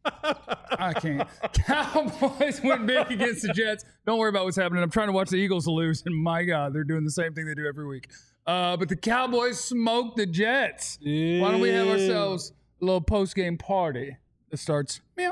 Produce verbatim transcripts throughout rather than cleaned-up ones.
I can't. Cowboys win big against the Jets. Don't worry about what's happening. I'm trying to watch the Eagles lose, and my God, they're doing the same thing they do every week. Uh, but the Cowboys smoked the Jets. Yeah. Why don't we have ourselves a little post-game party that starts meow.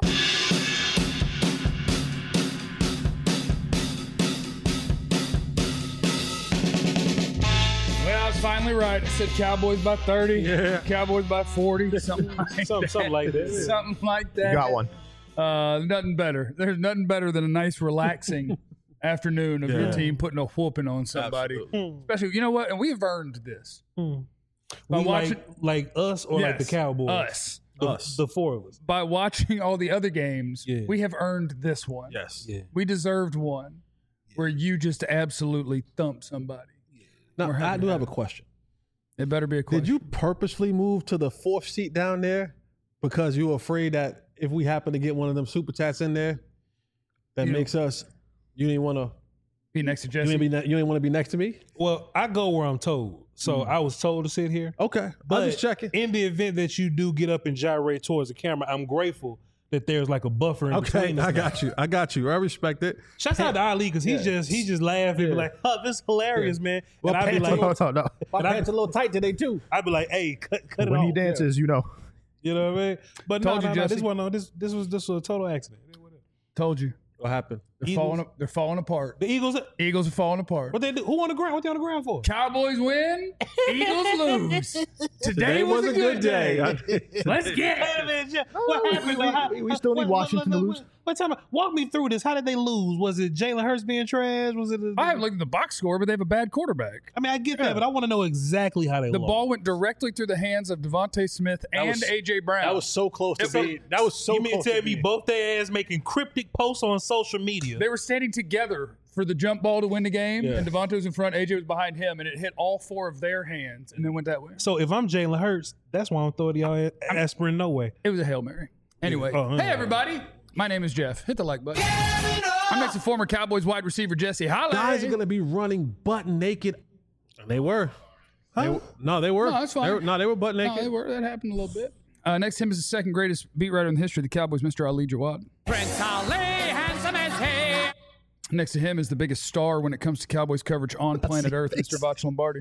Well, I was finally right. I said Cowboys by thirty. Yeah. Cowboys by forty. Something like something, that. something like that. Something like that. You got one. Uh, nothing better. There's nothing better than a nice, relaxing afternoon of Yeah. your team putting a whooping on somebody. Absolutely. Especially, you know what? And we've earned this. Hmm. By We watching like, like us or like the Yes, Cowboys? us. The, Us. the four of us. By watching all the other games, Yeah. we have earned this one. Yes. Yeah. We deserved one where you just absolutely thump somebody. Now, We're I happy do to have a have it. question. It better be a question. Did you purposely move to the fourth seat down there because you were afraid that if we happen to get one of them super chats in there, that You- makes us, you didn't want to, be next to you Jesse? didn't, be, ne- you didn't want to be next to me? Well, I go where I'm told. So I was told to sit here. Okay. But I'm just checking. in the event that you do get up and gyrate towards the camera, I'm grateful that there's like a buffer in Okay, between us. I now. got you. I got you. I respect it. Shouts out to Ali because he's just he just laugh and be Yeah. like, "Oh, this is hilarious, man." Well, and I'd be pants like, No, no, no. My And I- pants a little tight today too. I'd be like, "Hey, cut, cut it When off." he dances, you know. You know what I mean? But no, Told you, no, no, Jesse. this one, no, this this was this was a total accident. Told you. What happened? They're Eagles. falling, they're falling apart. The Eagles, Eagles are falling apart. what they do? Who on the ground? What they on the ground for? Cowboys win, Eagles lose. Today, Today was, a good day. Let's get Wait a it. minute, Jeff. What happened? we- How- we- we still need what- Washington what- to what- lose. What time? Walk me through this. How did they lose? Was it Jalen Hurts being trash? Was it? A, I haven't looked at the box score, but they have a bad quarterback. I mean, I get Yeah. that, but I want to know exactly how they The lost. ball went directly through the hands of Devontae Smith and was- A J Brown. That was so close to That's being. That was so You mean close to tell to me being. both their ass making cryptic posts on social media? They were standing together for the jump ball to win the game, Yeah. and Devontae was in front, A J was behind him, and it hit all four of their hands and then went that way. So if I'm Jalen Hurts, that's why I'm throwing y'all a- aspirin no way. It was a Hail Mary. Anyway, Oh, uh, hey everybody, my name is Jeff. Hit the like button. I'm next to former Cowboys wide receiver Jesse Holley. Guys are going to be running butt naked. And they were. They were- no, they were. No, that's fine. They were, no, they were butt No, naked. they were, that happened a little bit. Uh, next to him is the second greatest beat writer in the history of the Cowboys, Mister Ali Jawad. Prince Ali, handsome as he. Next to him is the biggest star when it comes to Cowboys coverage on planet Earth, Mister Voch Lombardi.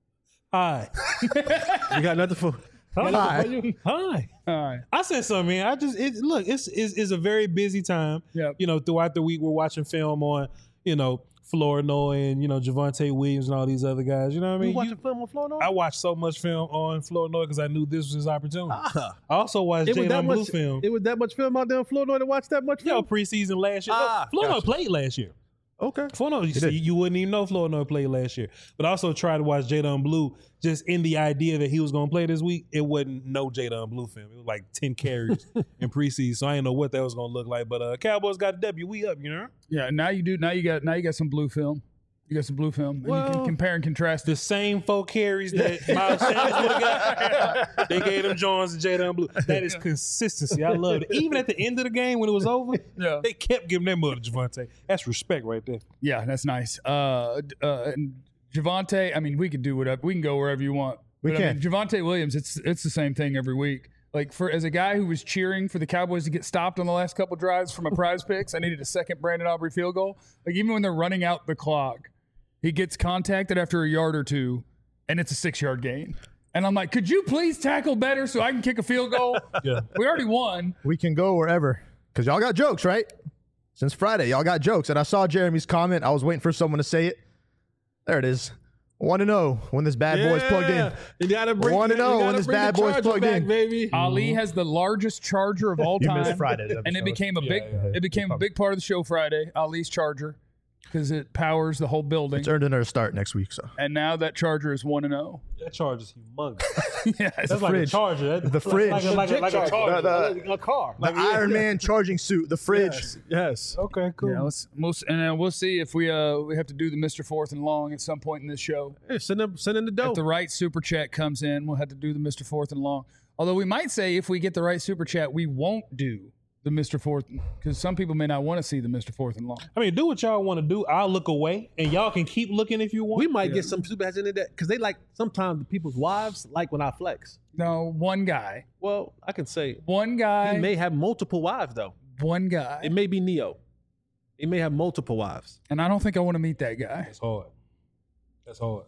Hi. You got nothing for. Hi. Hi. All right. I said something, man. I just it, look. It's, it's it's a very busy time. Yep. You know, throughout the week, we're watching film on you know Flournoy and you know Javonte Williams and all these other guys. You know what I mean? You watching You- film on Florida? I watched so much film on Flournoy because I knew this was his opportunity. Ah. I also watched It was that Jalen Blue much film. It was that much film out there in Florida to watch that much You know, film. preseason last year. Ah, Flournoy gotcha. played last year. Okay. Flournoy, you, did. see, you wouldn't even know Flournoy played last year. But I also tried to watch Jadon Blue just in the idea that he was going to play this week. It wasn't no Jadon Blue film. It was like ten carries in preseason, so I didn't know what that was going to look like. But uh, Cowboys got a W. We up, you know? Yeah, now you do. Now you got. Now you got some blue film. You got some blue film, and you Well, can compare and contrast The this. same four carries that Miles Sanders would have got, they gave them Jones and Jadon Blue. That is consistency. I love it. Even at the end of the game when it was over, Yeah. they kept giving their mother to Javonte. That's respect right there. Yeah, that's nice. Uh, d- uh, and Javonte. I mean, we could do whatever. We can go wherever you want. We But, I can. mean, Javonte Williams. It's it's the same thing every week. Like for as a guy who was cheering for the Cowboys to get stopped on the last couple drives from a prize picks, I needed a second Brandon Aubrey field goal. Like even when they're running out the clock, he gets contacted after a yard or two, and it's a six yard gain. And I'm like, could you please tackle better so I can kick a field goal? Yeah. We already won. We can go wherever. Because y'all got jokes, right? Since Friday, y'all got jokes. And I saw Jeremy's comment. I was waiting for someone to say it. There it is. one and oh when this bad boy's plugged in. You gotta bring One and you oh gotta when this bring the bad boy's Charger plugged back, in. baby. Ali has the largest charger of all You time. missed Friday's and it episode. became a big yeah, yeah. it became a big part of the show Friday, Ali's charger, because it powers the whole building. It's earned another start next week. So And now that charger is one and oh. That charge is humongous. Yeah, it's That's like fridge. a charger. That- The fridge. Like a, like a, like a charger. The- a car. the Iron Man charging suit, the fridge. Yes. yes. Okay, cool. yeah, let's, we'll, s- and uh, we'll see if we uh we have to do the Mister Fourth and Long at some point in this show. Hey, send them, send in the dough. If the right super chat comes in, we'll have to do the Mister Fourth and Long. Although we might say if we get the right super chat, we won't do the Mister Fourth, because some people may not want to see the Mister Fourth and long. I mean, do what y'all want to do. I'll look away, and y'all can keep looking if you want. We might get some super heads into that because they like sometimes the people's wives like when I flex. No, one guy. Well, I can say One guy. he may have multiple wives though. one guy. It may be Neo. He may have multiple wives. And I don't think I want to meet that guy. That's hard. That's hard.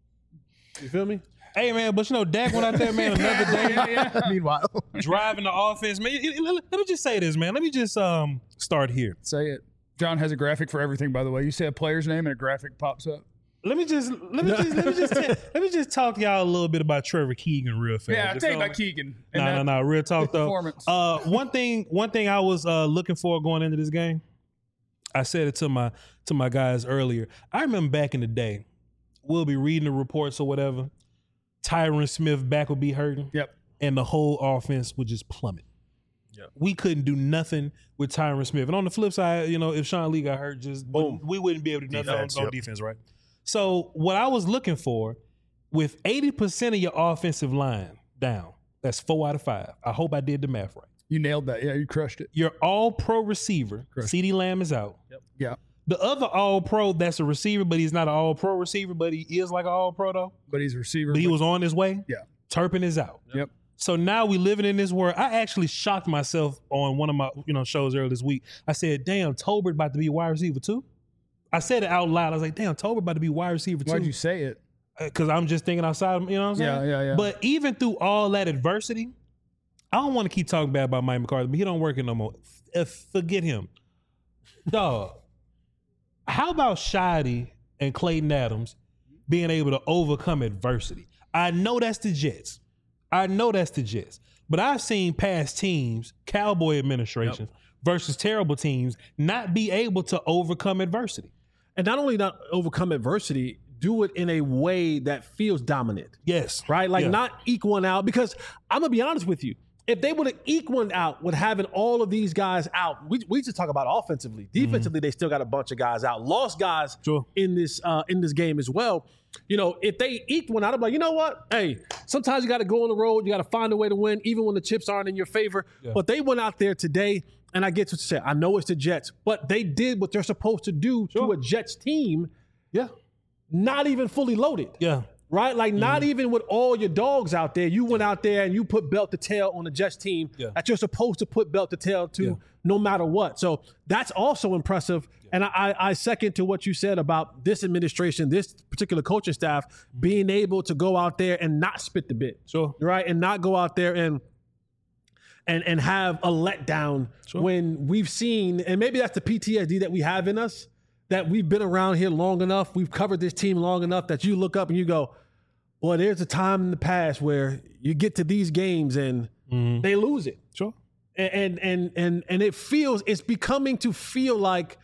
You feel me? Hey, man, but you know, Dak went out there, man, another day. Yeah, yeah. Meanwhile, driving the offense, man. Let me just say this, man. Let me just um start here. Say it. John has a graphic for everything, by the way. You say a player's name and a graphic pops up. Let me just let me just let me just tell, let me just talk to y'all a little bit about Trevor Keegan real fast. Yeah, You tell you feel about me? Keegan. No, no, no. Real talk though. Performance. Uh, one thing, one thing I was uh, looking for going into this game. I said it to my to my guys earlier. I remember back in the day, we'll be reading the reports or whatever. Tyron Smith back would be hurting. Yep. And the whole offense would just plummet. Yep. We couldn't do nothing with Tyron Smith. And on the flip side, you know, if Sean Lee got hurt, just boom, we wouldn't be able to do nothing Defense, on, on yep. defense, right? So what I was looking for, with eighty percent of your offensive line down, that's four out of five. I hope I did the math right. You nailed that. Yeah, you crushed it. Your all-pro receiver, Correct. CeeDee Lamb, is out. Yeah. The other all-pro, that's a receiver, but he's not an all-pro receiver, but he is like an all-pro, though. But he's a receiver. But he was on his way. Yeah. Turpin is out. Yep. So now we living in this world. I actually shocked myself on one of my you know shows earlier this week. I said, damn, Tolbert about to be wide receiver too. I said it out loud. I was like, damn, Tolbert about to be wide receiver too. Why'd you say it? Because I'm just thinking outside, you know what I'm saying? Yeah, yeah, yeah. But even through all that adversity, I don't want to keep talking bad about Mike McCarthy, but he don't work it no more. F- forget him. Dog. How about Shady and Clayton Adams being able to overcome adversity? I know that's the Jets. I know that's the Jets. But I've seen past teams, Cowboy administrations, yep. versus terrible teams, not be able to overcome adversity. And not only not overcome adversity, do it in a way that feels dominant. Yes. Right? Like yeah. not eke one out. Because I'm going to be honest with you. If they would have eked one out with having all of these guys out, we, we just talk about offensively. Defensively, mm-hmm. they still got a bunch of guys out. Lost guys sure. in this uh, in this game as well. You know, if they eked one out, I'm like, you know what? Hey, sometimes you got to go on the road. You got to find a way to win, even when the chips aren't in your favor. Yeah. But they went out there today, and I get what you said. I know it's the Jets, but they did what they're supposed to do sure. to a Jets team. Yeah. Not even fully loaded. Yeah. Right? Like, mm-hmm. not even with all your dogs out there. You went yeah. out there and you put belt to tail on the Jets team yeah. that you're supposed to put belt to tail to yeah. no matter what. So that's also impressive. Yeah. And I, I second to what you said about this administration, this particular coaching staff, mm-hmm. being able to go out there and not spit the bit. Sure. Right? And not go out there and and and have a letdown sure. when we've seen, and maybe that's the P T S D that we have in us, that we've been around here long enough, we've covered this team long enough that you look up and you go, boy, there's a time in the past where you get to these games and mm-hmm. they lose it. Sure. And, and and and and it feels, it's becoming to feel like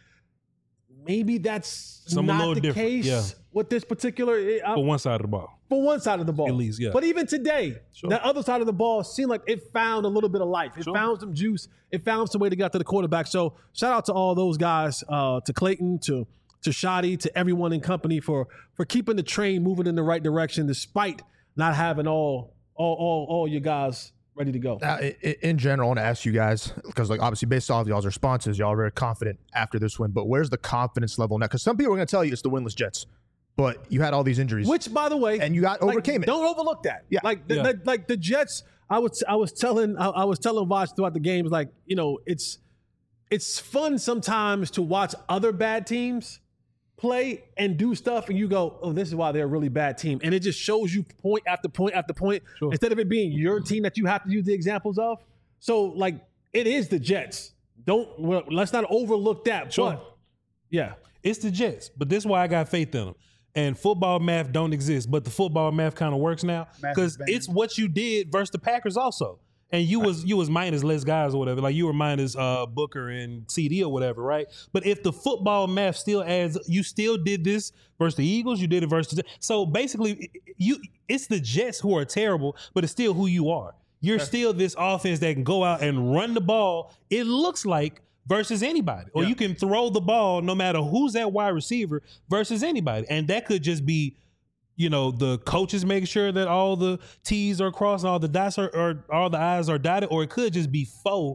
maybe that's Some not the different. case yeah. with this particular. I, For one side of the ball. For one side of the ball. At least, yeah. But even today, sure. the other side of the ball seemed like it found a little bit of life. It sure. found some juice. It found some way to get to the quarterback. So shout out to all those guys, uh, to Clayton, to to Shady, to everyone in company for for keeping the train moving in the right direction despite not having all all all, all your guys ready to go. Now, in general, I want to ask you guys, because like obviously based off y'all's responses, y'all are very confident after this win, but where's the confidence level now? Because some people are going to tell you it's the winless Jets. But you had all these injuries, which, by the way, and you got like, overcame it. Don't overlook that. Yeah, like the, yeah. the, like the Jets. I was I was telling I, I was telling Voch throughout the games, like, you know, it's it's fun sometimes to watch other bad teams play and do stuff, and you go, oh, this is why they're a really bad team, and it just shows you point after point after point sure. instead of it being your team that you have to use the examples of. So like it is the Jets. Don't well, let's not overlook that. Sure. But yeah, it's the Jets, but this is why I got faith in them. And football math don't exist, but the football math kind of works now because it's what you did versus the Packers also. And you right. was you was minus less guys or whatever, like you were minus uh, Booker and C D or whatever, right? But if the football math still adds, you still did this versus the Eagles, you did it versus the, so basically you it's the Jets who are terrible, but it's still who you are. You're okay. still this offense that can go out and run the ball. It looks like. Versus anybody. Or yeah. you can throw the ball no matter who's that wide receiver versus anybody. And that could just be, you know, the coaches making sure that all the T's are crossed and all the dots are, or all the I's are dotted, or it could just be foe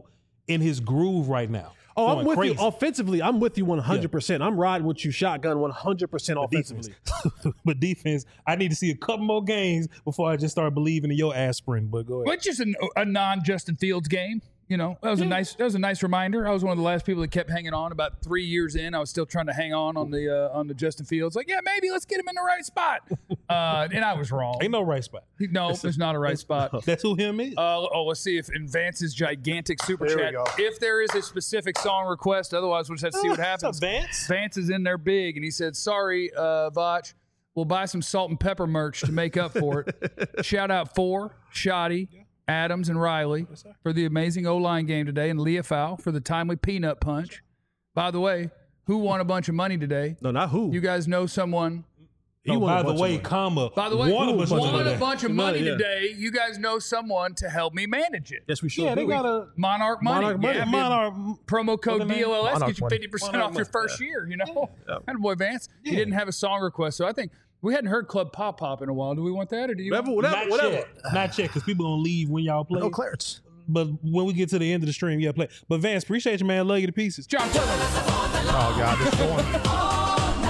in his groove right now. Oh, I'm Going with crazy. you. Offensively, I'm with you one hundred percent. I'm riding with you shotgun one hundred percent offensively. But defense, I need to see a couple more games before I just start believing in your aspirin. But go ahead. But just an, a non-Justin Fields game. You know, that was a nice that was a nice reminder. I was one of the last people that kept hanging on. About three years in, I was still trying to hang on on the uh, on the Justin Fields. Like, yeah, maybe let's get him in the right spot. Uh, and I was wrong. Ain't no right spot. No, there's not a right spot. That's who him is. Uh, oh, let's see if in Vance's gigantic super There we chat, go. if there is a specific song request. Otherwise, we'll just have to see what What's happens. up, Vance? Vance is in there big, and he said, "Sorry, uh, Vach, we'll buy some salt and pepper merch to make up for it." Shout out for Shoddy, Adams, and Riley for the amazing O-line game today, and Leah Fowl for the timely peanut punch. By the way, who won a bunch of money today? No, not who. You guys know someone. He Oh, won a by the bunch of way, money. comma. By the way, won a who bunch of won money. a bunch of Some money money, yeah. today? You guys know someone to help me manage it. Yes, we should. Yeah, they do. got a Monarch Money. Monarch Money. Yeah, yeah, Monarch. promo code What the D L L S Monarch gets you Money. fifty percent Monarch off your Money, first year, you know? And boy, Vance, he Yeah. didn't have a song request. So I think we hadn't heard Club Pop Pop in a while. Do we want that or do you Whatever, want whatever, Not whatever. yet. Not yet, because people gonna leave when y'all play. No Clarence. But when we get to the end of the stream, yeah, play. But Vance, appreciate you, man. Love you to pieces. John Cleveland. Oh God, this one.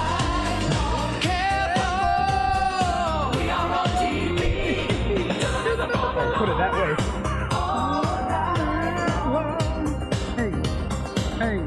Put it that way. Hey.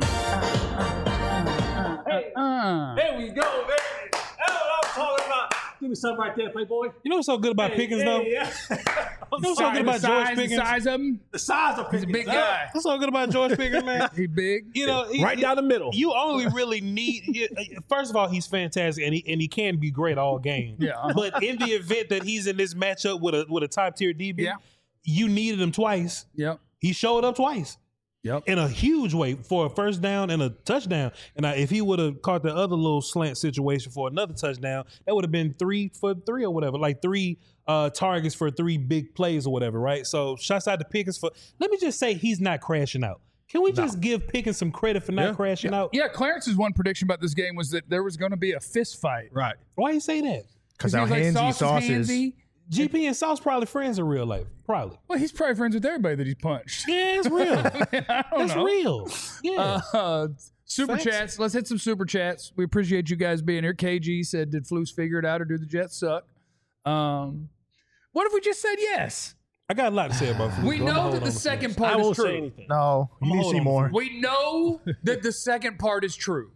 Hey. Uh, There we go, baby. That's what I'm talking about. Give me something right there, Playboy. You know what's so good about Pickens, though? Yeah, You know what's so good the about George size, the Pickens? size of him. the size of He's a Pickens. big huh? guy. What's so good about George Pickens, man? He big. You know, he- Right down the middle. You only really need. you- First of all, he's fantastic, and he and he can be great all game. Yeah. But in the event that he's in this matchup with a with a top tier D B, Yeah. you needed him twice. Yep. He showed up twice. Yep. In a huge way for a first down and a touchdown. And I, if he would have caught the other little slant situation for another touchdown, that would have been three for three or whatever, like three uh, targets for three big plays or whatever, right? So shouts out to Pickens for. Let me just say he's not crashing out. Can we just give Pickens some credit for not Yeah. crashing out? Yeah, Clarence's one prediction about this game was that there was going to be a fist fight. Right. Why you say that? Because he how was like, handsy Sauce is Sauce is. handsy. G P and Sauce probably friends in real life. Probably. Well, he's probably friends with everybody that he's punched. Yeah, it's real. I don't That's know. real. Yeah. Uh, super Facts. chats. Let's hit some super chats. We appreciate you guys being here. K G said, "Did Flus figure it out, or do the Jets suck?" Um, what if we just said yes? I got a lot to say about Flus. We but I'ma know hold that on the to second Flus. part I is won't true. say anything. No, you I'ma need to hold see on more. We know that the second part is true.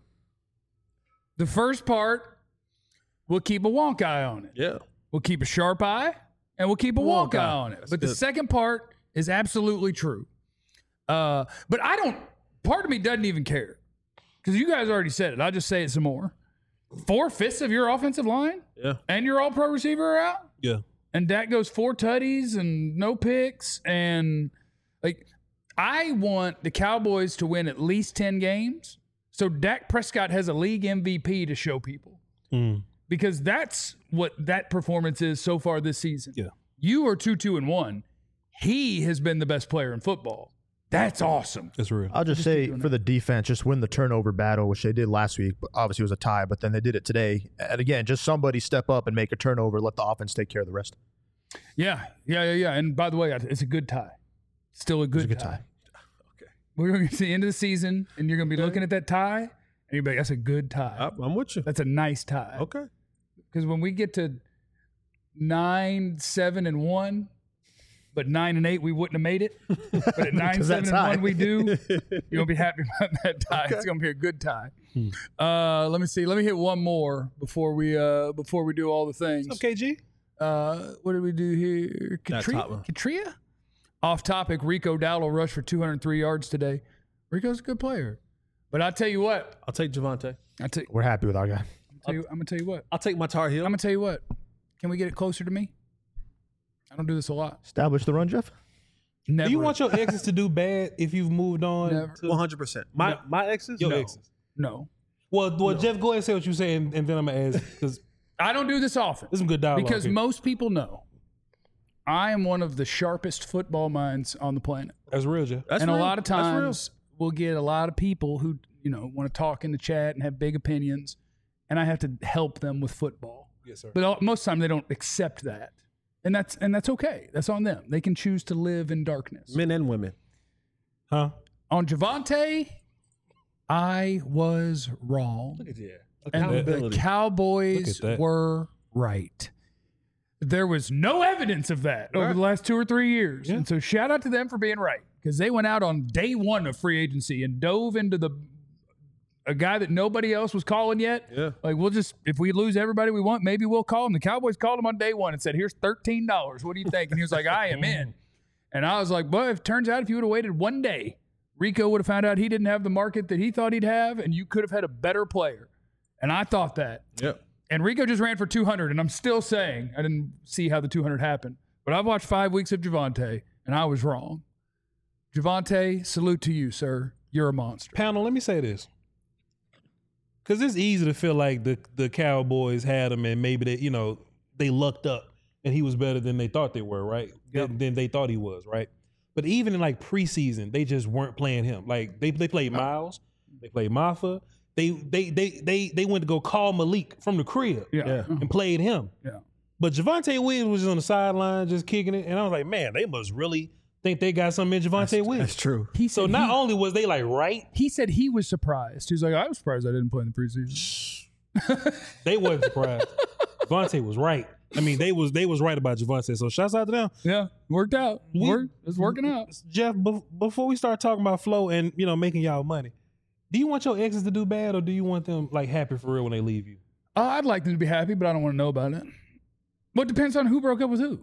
The first part, we'll keep a wonk eye on it. Yeah. We'll keep a sharp eye, and we'll keep a wonk, Wonk eye eye. on it. That's But the good. second part is absolutely true. Uh, but I don't. Part of me doesn't even care because you guys already said it. I'll just say it some more. Four fifths of your offensive line Yeah. and your All-Pro receiver are out, Yeah. and Dak goes four tutties and no picks, and like I want the Cowboys to win at least ten games, so Dak Prescott has a league M V P to show people. Mm. Because that's what that performance is so far this season. Yeah. You are two, two, and one. He has been the best player in football. That's awesome. That's real. I'll just say for the defense, just win the turnover battle, which they did last week. But obviously, it was a tie, but then they did it today. And again, just somebody step up and make a turnover. Let the offense take care of the rest. Yeah, yeah, yeah, yeah. And by the way, it's a good tie. Still a good, It's a good tie. tie. We're going to get to the end of the season, and you're going to be looking at that tie, and you're like, that's a good tie. I- I'm with you. That's a nice tie. Okay. Because when we get to nine, seven, and one, but nine and eight, we wouldn't have made it. But at nine, 'Cause seven, that and tie. one, we do. You're gonna be happy about that tie. It's gonna be a good tie. Uh, let me see. Let me hit one more before we uh before we do all the things. What's up, K G? Uh, what did we do here? That Katria? top one. Katria? Off topic. Rico Dowdle rushed for two hundred three yards today. Rico's a good player, but I tell you what. I'll take Javante. I tell, We're happy with our guy. tell you, I'm gonna tell you what. I'll take my Tar Heel. I'm gonna tell you what. Can we get it closer to me? I don't do this a lot. Establish the run, Jeff. Never. Do you want your exes to do bad if you've moved on? Never. to- one hundred percent. My my exes? Your No. exes. No. Well, well, Jeff, go ahead and say what you say, and, and then I'm gonna ask because I don't do this often there's some good dialogue. because here. most people know I am one of the sharpest football minds on the planet. that's real, Jeff. That's and real. a lot of That's real. times we'll get a lot of people who, you know, want to talk in the chat and have big opinions, and I have to help them with football. Yes, sir. But all, most of the time they don't accept that. And that's and that's okay. That's on them. They can choose to live in darkness. Men and women. Huh? on Javonte, I was wrong. Look at that. And the Accountability. Cowboys Look at that. were right. There was no evidence of that over the last two or three years. Yeah. And so shout out to them for being right, because they went out on day one of free agency and dove into the a guy that nobody else was calling yet. Yeah. Like, we'll just, if we lose everybody we want, maybe we'll call him. The Cowboys called him on day one and said, here's thirteen dollars. What do you think? And he was like, I am in. And I was like, well, it turns out if you would have waited one day, Rico would have found out he didn't have the market that he thought he'd have, and you could have had a better player. And I thought that. Yep. And Rico just ran for two hundred, and I'm still saying I didn't see how the two hundred happened. But I've watched five weeks of Javonte, and I was wrong. Javonte, salute to you, sir. You're a monster. Panel, let me say this. Because it's easy to feel like the, the Cowboys had him and maybe they, you know, they lucked up and he was better than they thought they were, right? Yep. Than, than they thought he was, right? But even in like preseason, they just weren't playing him. Like they they played Miles, they played Martha. They they they they they went to go call Malik from the crib Yeah. Yeah. and played him. Yeah. But Javonte Williams was just on the sideline just kicking it. And I was like, man, they must really think they got something in Javonte Williams. That's true. He So said not he, only was they like right, he said he was surprised. He was like, I was surprised I didn't play in the preseason. they wasn't surprised. Javonte was right. I mean, they was they was right about Javonte. So shouts out to them. Yeah, worked out. We- Worked. It's working out. Jeff, bef- before we start talking about flow and, you know, making y'all money, do you want your exes to do bad or do you want them like happy for real when they leave you? Uh, I'd like them to be happy, but I don't want to know about it. Well, it depends on who broke up with who.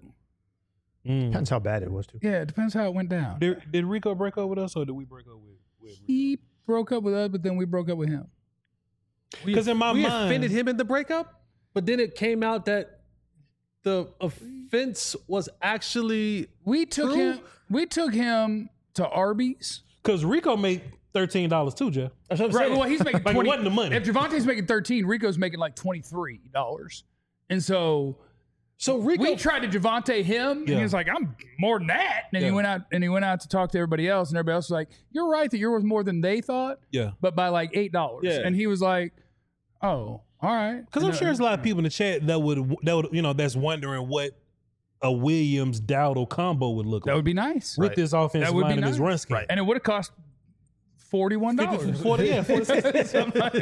Mm. Depends how bad it was, too. Yeah, it depends how it went down. Did, did Rico break up with us or did we break up with, with Rico? He broke up with us, but then we broke up with him. Because in my we mind, offended him in the breakup, but then it came out that the offense was actually We took True. him. We took him to Arby's. because Rico made thirteen dollars too, Jeff. That's what I'm Right. saying. Well, he's making Like, it twenty. wasn't the money. If Javonte's making thirteen, Rico's making like twenty three dollars, and so so Rico, we tried to Javonte him, and Yeah. he was like, "I'm more than that." And Yeah. he went out and he went out to talk to everybody else, and everybody else was like, "You're right that you're worth more than they thought, Yeah. but by like eight dollars." Yeah. And he was like, "Oh, all right." Because I'm sure there's a lot of people in the chat that would, that would, you know, that's wondering what a Williams Dowdle combo would look That like would be nice, with this offensive That would be line and this nice. run scheme. and it would have cost forty one dollars. forty, yeah, forty-six.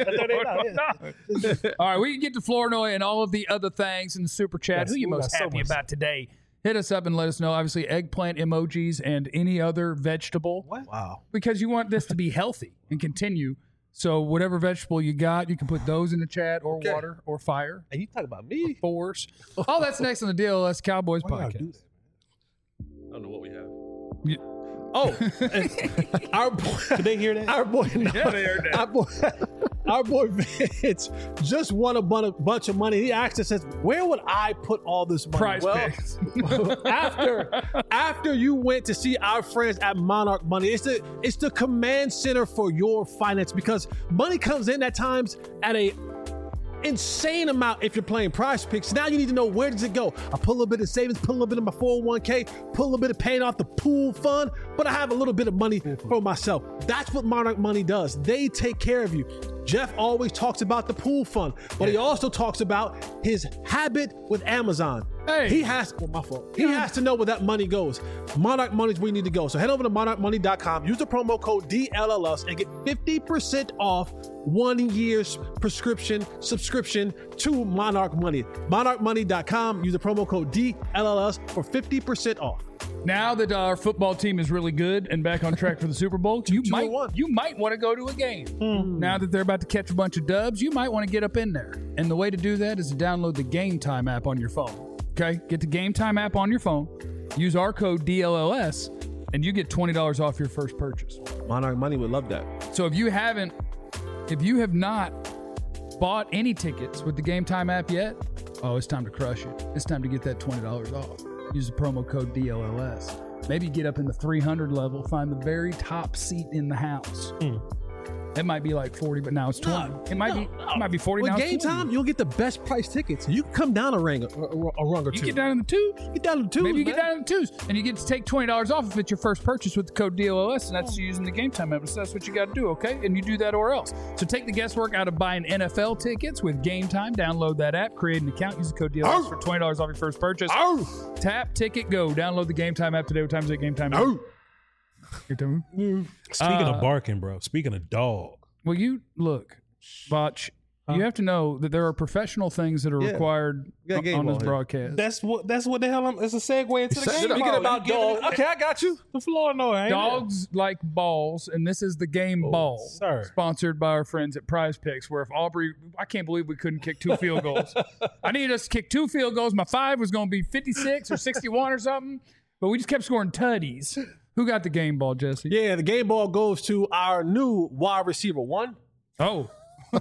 All right, we can get to Flournoy and all of the other things in the super chat. Yes, Who you we got most so happy much. about today? Hit us up and let us know. Obviously, eggplant emojis and any other vegetable. wow. Because you want this to be healthy and continue. So whatever vegetable you got, you can put those in the chat or Okay. water or fire. And you talk about me? Force. All that's next on the D L S Cowboys Why y'all do podcast. I don't know what we have. Yeah. Oh, and our boy, Did they hear that? our boy, Yeah, they heard that. our boy, our boy Vince just won a bun- bunch of money. He asked us, says, "Where would I put all this money?" Prize well, picks. after after you went to see our friends at Monarch Money, it's the it's the command center for your finance, because money comes in at times at a insane amount if you're playing Prize Picks. Now you need to know, where does it go? I put a little bit of savings, put a little bit of my four oh one k, put a little bit of paying off the pool fund, but I have a little bit of money for myself. That's what Monarch Money does. They take care of you. Jeff always talks about the pool fund, but he also talks about his habit with Amazon. Hey. He has, well, my fault. He has to know where that money goes. Monarch Money is where you need to go. So head over to monarch money dot com, use the promo code D L L S and get fifty percent off one year's prescription subscription to Monarch Money. monarch money dot com, use the promo code D L L S for fifty percent off. Now that our football team is really good and back on track for the Super Bowl, you Two might and one. you might want to go to a game. Now that they're about to catch a bunch of dubs, you might want to get up in there. And the way to do that is to download the Game Time app on your phone. Okay, get the Game Time app on your phone. Use our code D L L S, and you get twenty dollars off your first purchase. Monarch Money would love that. So if you haven't, if you have not bought any tickets with the Game Time app yet, oh, it's time to crush it. It's time to get that twenty dollars off. Use the promo code D L L S. Maybe get up in the three hundred level, find the very top seat in the house. It might be like forty, but now it's twenty. it might be it might be forty With now. it's Game twenty. Time, you'll get the best price tickets. You can come down a ring, a, a, a rung or You two. get down in the twos. Get down to two. Maybe you get down in the twos, and you get to take twenty dollars off if it's your first purchase with the code D L L S, and that's using the Game Time app. So that's what you got to do, okay? And you do that or else. So take the guesswork out of buying N F L tickets with Game Time. Download that app, create an account, use the code D L L S for twenty dollars off your first purchase. Tap, ticket, go. Download the Game Time app today. What time is it? Game Time. You tell me? Speaking Uh, of barking, bro. Speaking of dog. Well, you look, Botch. You have to know that there are professional things that are Yeah. required got on, game on this ball here. broadcast. That's what. That's what the hell. I'm, it's a segue into the Set game. it up. Speaking about You giving dog. it- Okay, I got you. The floor, no, ain't it? Dogs like balls, and this is the game ball, sir. sponsored by our friends at Prize Picks. Where if Aubrey, I can't believe we couldn't kick two field goals. I needed us to kick two field goals. My five was going to be fifty-six or sixty-one or something, but we just kept scoring tutties. Who got the game ball, Jesse? Yeah, the game ball goes to our new wide receiver one. Oh,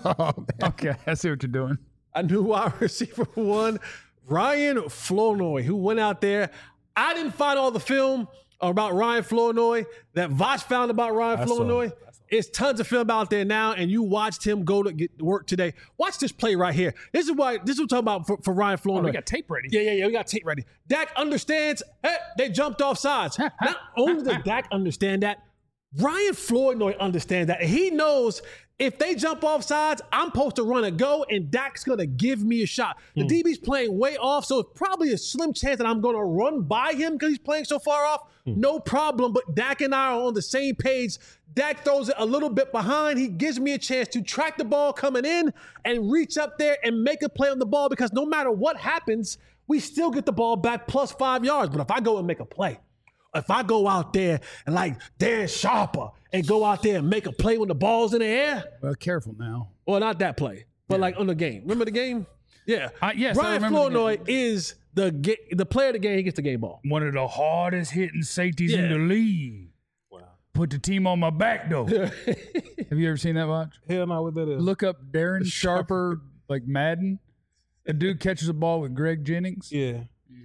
okay. I see what you're doing. A new wide receiver one, Ryan Flournoy, who went out there. I didn't find all the film about Ryan Flournoy that Vosh found about Ryan I saw Flournoy. it. I saw It's tons of film out there now, and you watched him go to get work today. Watch this play right here. This is why this is what I'm talking about for, for Ryan Oh, Flournoy. we got tape ready. Yeah, yeah, yeah. We got tape ready. Dak understands. Hey, they jumped off sides. Not only does Dak understand that, Ryan Flournoy understands that. He knows if they jump off sides, I'm supposed to run a go, and Dak's going to give me a shot. The D B's playing way off, so it's probably a slim chance that I'm going to run by him because he's playing so far off. No problem, but Dak and I are on the same page. Dak throws it a little bit behind. He gives me a chance to track the ball coming in and reach up there and make a play on the ball because no matter what happens, we still get the ball back plus five yards. But if I go and make a play, if I go out there and like Darren Sharper and go out there and make a play when the ball's in the air, Well, careful now. well, not that play, but like on the game. Remember the game? Yeah. Uh, yes, I Ryan remember the Flournoy game. is the ga- the player of the game. He gets the game ball. One of the hardest hitting safeties in Yeah. the league. Wow. Put the team on my back, though. Have you ever seen that watch? Hell no, what that is. Look up Darren Sharper, like Madden. A dude catches a ball with Greg Jennings. Yeah.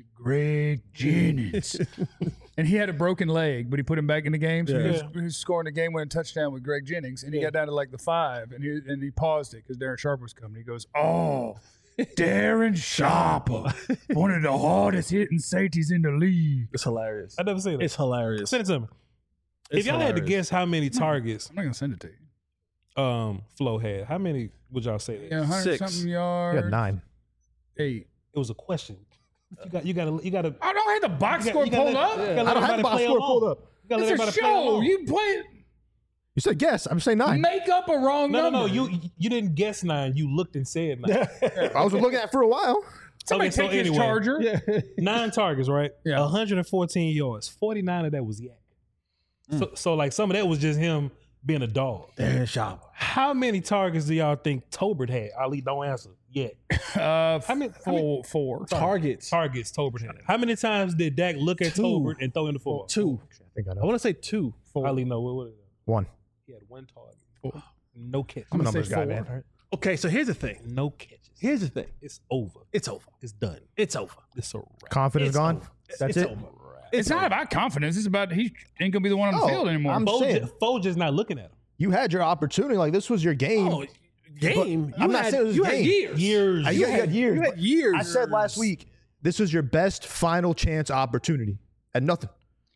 Greg Jennings. And he had a broken leg, but he put him back in the game. So he, was, Yeah. he was scoring a game-winning touchdown with Greg Jennings. And he got down to like the five, and he, and he paused it because Darren Sharper was coming. He goes, oh, Darren Sharper, one of the hardest hitting safeties in the league. It's hilarious. I never seen it. It's hilarious. Send it to me. It's if y'all had to hilarious. guess how many targets I'm not going to send it to you. um Flo had, how many would y'all say? Yeah, one hundred Six. something You yards. had nine. Eight. It was a question. You got, you got to, you got to. I don't have the box You score got- you gotta pulled let- up. you gotta I let don't have everybody the box play score along. pulled up. You gotta let It's a everybody play show. along. You play You said guess. I'm saying nine. make up a wrong No, no, number. no. You you didn't guess nine. You looked and said nine. I was looking at it for a while. Somebody Okay, so take his anyway. charger. Nine targets, right? Yeah. one hundred fourteen yards. forty-nine of that was yak. So, so like some of that was just him being a dog. Darren Sharper. How many targets do y'all think Tolbert had? Ali, don't answer yet. Uh, How many- how many- four, four. Targets. Targets Tolbert had. How many times did Dak look at Two. Tolbert and throw in the football? Two. I think I I know. want to say two. Ali, no. What, what is it? One. He had one target. No catches. I'm a gonna say numbers guy, four. man. Okay, so here's the thing. No catches. Here's the thing. It's over. It's over. It's done. It's over. It's a wrap. Confidence It's gone. over. That's it's it. over. It's not about confidence. It's about he ain't gonna be the one on the Oh, field anymore. I'm Foles saying. just, Foles just not looking at him. You had your opportunity. Like this was your game. Oh, game. But I'm not had, saying it was you game. had years. Years. I- you, had, years. You had years. I said last week, this was your best final chance opportunity, and nothing.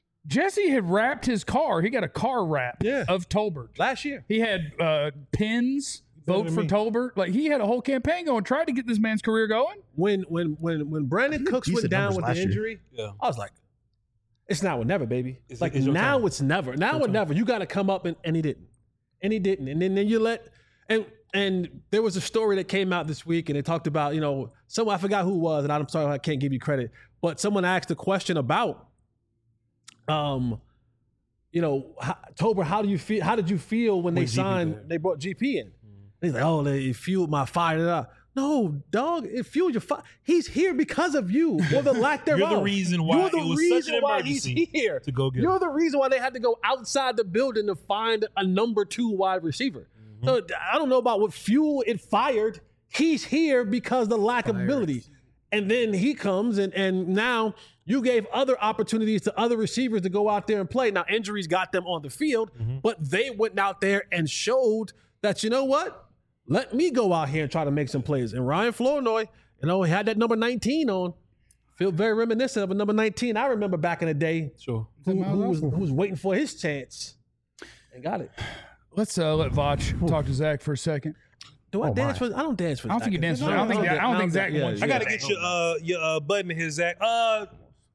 Jesse had wrapped his car. He got a car wrap Yeah. of Tolbert. last year. He had uh, pins, vote than for me. Tolbert. Like he had a whole campaign going, tried to get this man's career going. When when when when Brandon Cooks went decent down numbers with the last year. injury, Yeah. I was like, it's now or never, baby. It's- like it's your now time. it's never. Now or time. never. You got to come up and, and he didn't, and he didn't, and then then you let and and there was a story that came out this week, and they talked about you know someone I forgot who it was, and I'm sorry I can't give you credit, but someone asked a question about, um, you know, how, Tober, how do you feel? How did you feel when they When G P signed? back. They brought G P in. He's like, oh, they fueled my fire. da, da. No, dog, it fueled your fire. He's here because of you, or the lack thereof. You're the reason why You're the it was reason such an why he's emergency here. to go get You're him. the reason why they had to go outside the building to find a number two wide receiver. Mm-hmm. So I don't know about what fuel it fired. He's here because the lack of ability. And then he comes and and now you gave other opportunities to other receivers to go out there and play. Now injuries got them on the field, Mm-hmm. but they went out there and showed that, you know what? Let me go out here and try to make some plays. And Ryan Flournoy, you know, he had that number nineteen on. Feel very reminiscent of a number nineteen. I remember back in the day Sure. who, who was, who was waiting for his chance and got it. Let's uh, let Vach talk to Zach for a second. Do I Oh, dance my. for? I don't dance for. I don't think Zach. he dances. No, I don't think. no, I don't think no, Zach yeah, wants. yeah. I gotta get your uh your uh button here, Zach. Uh,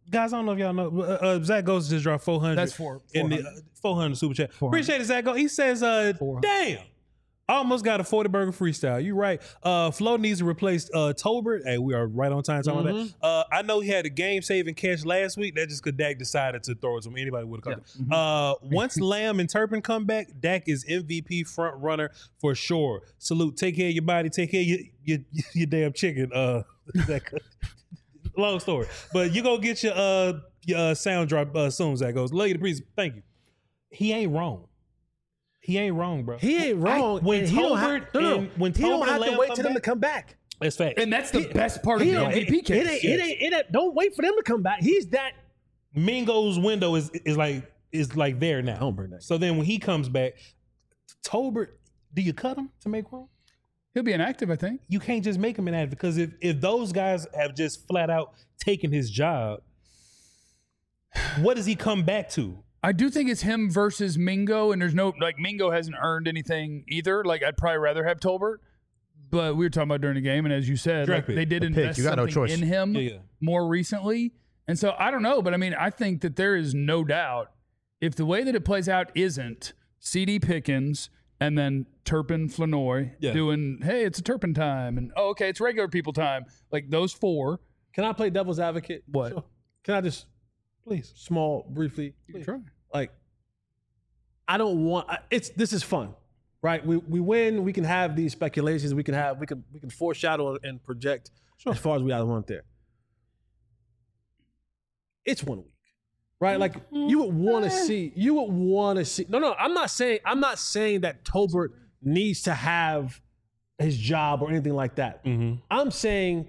Guys, I don't know if y'all know. Uh, uh, Zach Ghost just dropped four hundred. That's four. In the uh, four hundred super chat. Appreciate it, Zach Ghost. He says, uh, damn. I almost got a forty burger freestyle. You right. Uh, Flo needs to replace uh, Tolbert. Hey, we are right on time talking Mm-hmm. about that. Uh, I know he had a game saving catch last week. That just because Dak decided to throw it to him. Anybody would have caught Yeah. it. Uh, once Lamb and Turpin come back, Dak is M V P front runner for sure. Salute. Take care of your body. Take care of your your, your damn chicken. Uh, Zach. Long story, but you go get your uh your uh, sound drop uh, soon. Zach goes. Love you the priest. Thank you. He ain't wrong. He ain't wrong, bro. He ain't wrong. I, when and he don't have, Tolbert no, no, and when he don't Tolbert have Lamb to wait come till them to back- come back. That's fact. And that's the best part of He the don't- M V P it, case. it, ain't, it, ain't, it ain't. It ain't. Don't wait for them to come back. He's that. Mingo's window is is like is like there now. Don't bring that. So then when he comes back, Tolbert, do you cut him to make room? He'll be inactive, I think. You can't just make him inactive because if if those guys have just flat out taken his job, what does he come back to? I do think it's him versus Mingo, and there's no like Mingo hasn't earned anything either. Like I'd probably rather have Tolbert, but we were talking about during the game, and as you said, Draft like, pick. they did A pick. invest You got no something choice. in him Yeah, yeah. more recently, and so I don't know, but I mean, I think that there is no doubt if the way that it plays out isn't C D Pickens and then Turpin Flanoy Yeah. doing, hey, it's a Turpin time, and oh, okay, it's regular people time, like those four. Can I play devil's advocate? What? Sure. Can I just Please. small briefly? Try. Like, I don't want. I- It's this is fun, right? We we win. We can have these speculations. We can have we can we can foreshadow and project as far as we either want there. It's one week, right? Like you would want to see. You would want to see. No, no. I'm not saying. I'm not saying that Tolbert needs to have his job or anything like that. Mm-hmm. I'm saying.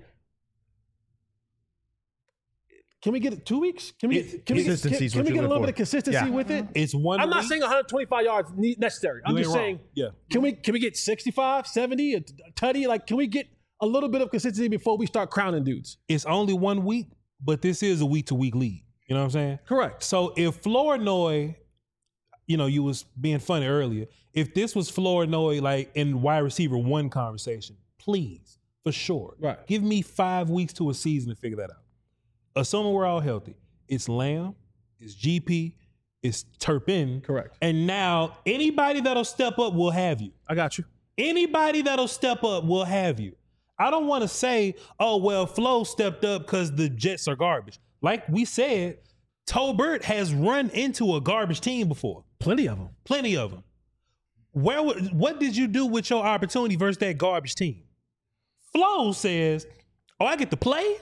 Can we get it two weeks? Can we It- get, can we get, consistency can, is can what we you get a look little for. bit of consistency Yeah. with it? It's one. I'm not week. saying one hundred twenty-five yards ne- necessary. I'm You just ain't wrong. saying, Yeah. can we can we get sixty-five, seventy, a t- a tutty? Like, can we get a little bit of consistency before we start crowning dudes? It's only one week, but this is a week to week league. You know what I'm saying? Correct. So if Flournoy, you know, you was being funny earlier. If this was Flournoy like in wide receiver one conversation, please, for sure. Right. Give me five weeks to a season to figure that out. Assuming we're all healthy. It's Lamb, it's G P, it's Turpin. Correct. And now anybody that'll step up will have you. I got you. Anybody that'll step up will have you. I don't want to say, oh, well, Flo stepped up because the Jets are garbage. Like we said, Tolbert has run into a garbage team before. Plenty of them. Plenty of them. Where? would- What did you do with your opportunity versus that garbage team? Flo says, oh, I get to play?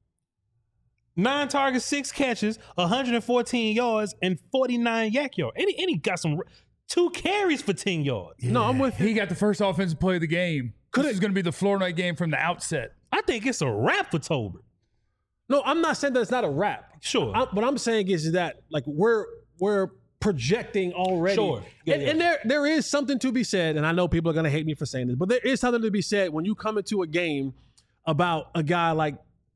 Nine targets, six catches, one hundred fourteen yards, and forty-nine yak yards. And he, and he got some two carries for ten yards. No, I'm with you. He got the first offensive play of the game. Could this it- is going to be the floor night game from the outset. I think it's a wrap for Tolbert. No, I'm not saying that it's not a wrap. Sure. I, what I'm saying is that like we're we're projecting already. Sure. Yeah, and, yeah. and there there is something to be said, and I know people are gonna hate me for saying this, but there is something to be said when you come into a game about a guy like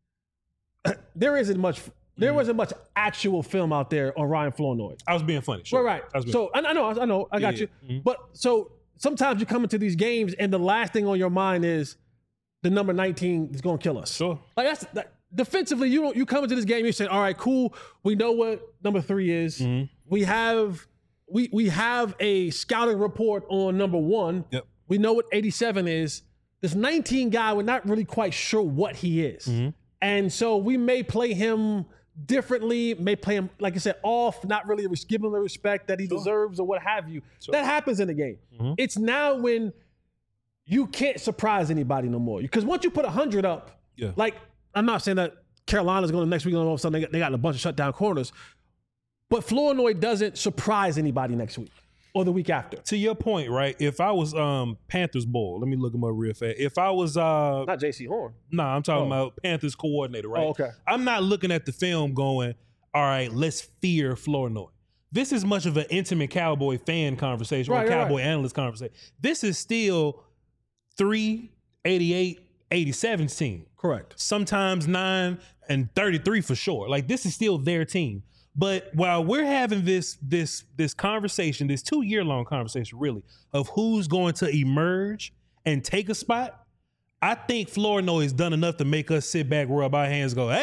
there isn't much there wasn't much actual film out there on Ryan Flournoy. I was being funny. Sure. Right, I was right. being So I, I know, I know, I got Yeah, you. yeah. Mhm. But so sometimes you come into these games and the last thing on your mind is the number nineteen is going to kill us. Sure. Like that's that, defensively. You don't. You come into this game. You say, "All right, cool. We know what number three is. Mm-hmm. We have we we have a scouting report on number one. Yep. We know what eighty-seven is. This nineteen guy, we're not really quite sure what he is, Mm-hmm. and so we may play him differently. May play him like I said off, not really res- give him the respect that he deserves or what have you. That happens in the game. Mm-hmm. It's now when you can't surprise anybody no more. Because once you put one hundred up, Yeah. like, I'm not saying that Carolina's going to next week, all of a sudden they got, they got a bunch of shutdown corners, but Flournoy doesn't surprise anybody next week or the week after. To your point, right? If I was um Panthers ball, let me look him up real fast. If I was uh Not J C Horn. no, nah, I'm talking Oh. about Panthers coordinator, right? Oh, okay. I'm not looking at the film going, all right, let's fear Flournoy. This is much of an intimate Cowboy fan conversation Right, or right, Cowboy right. analyst conversation. This is still three, eighty-eight, eighty-seven team. Correct. Sometimes nine and thirty-three for sure. Like this is still their team. But while we're having this this this conversation, this two year long conversation, really, of who's going to emerge and take a spot, I think Flournoy has done enough to make us sit back, rub our hands, go, hey,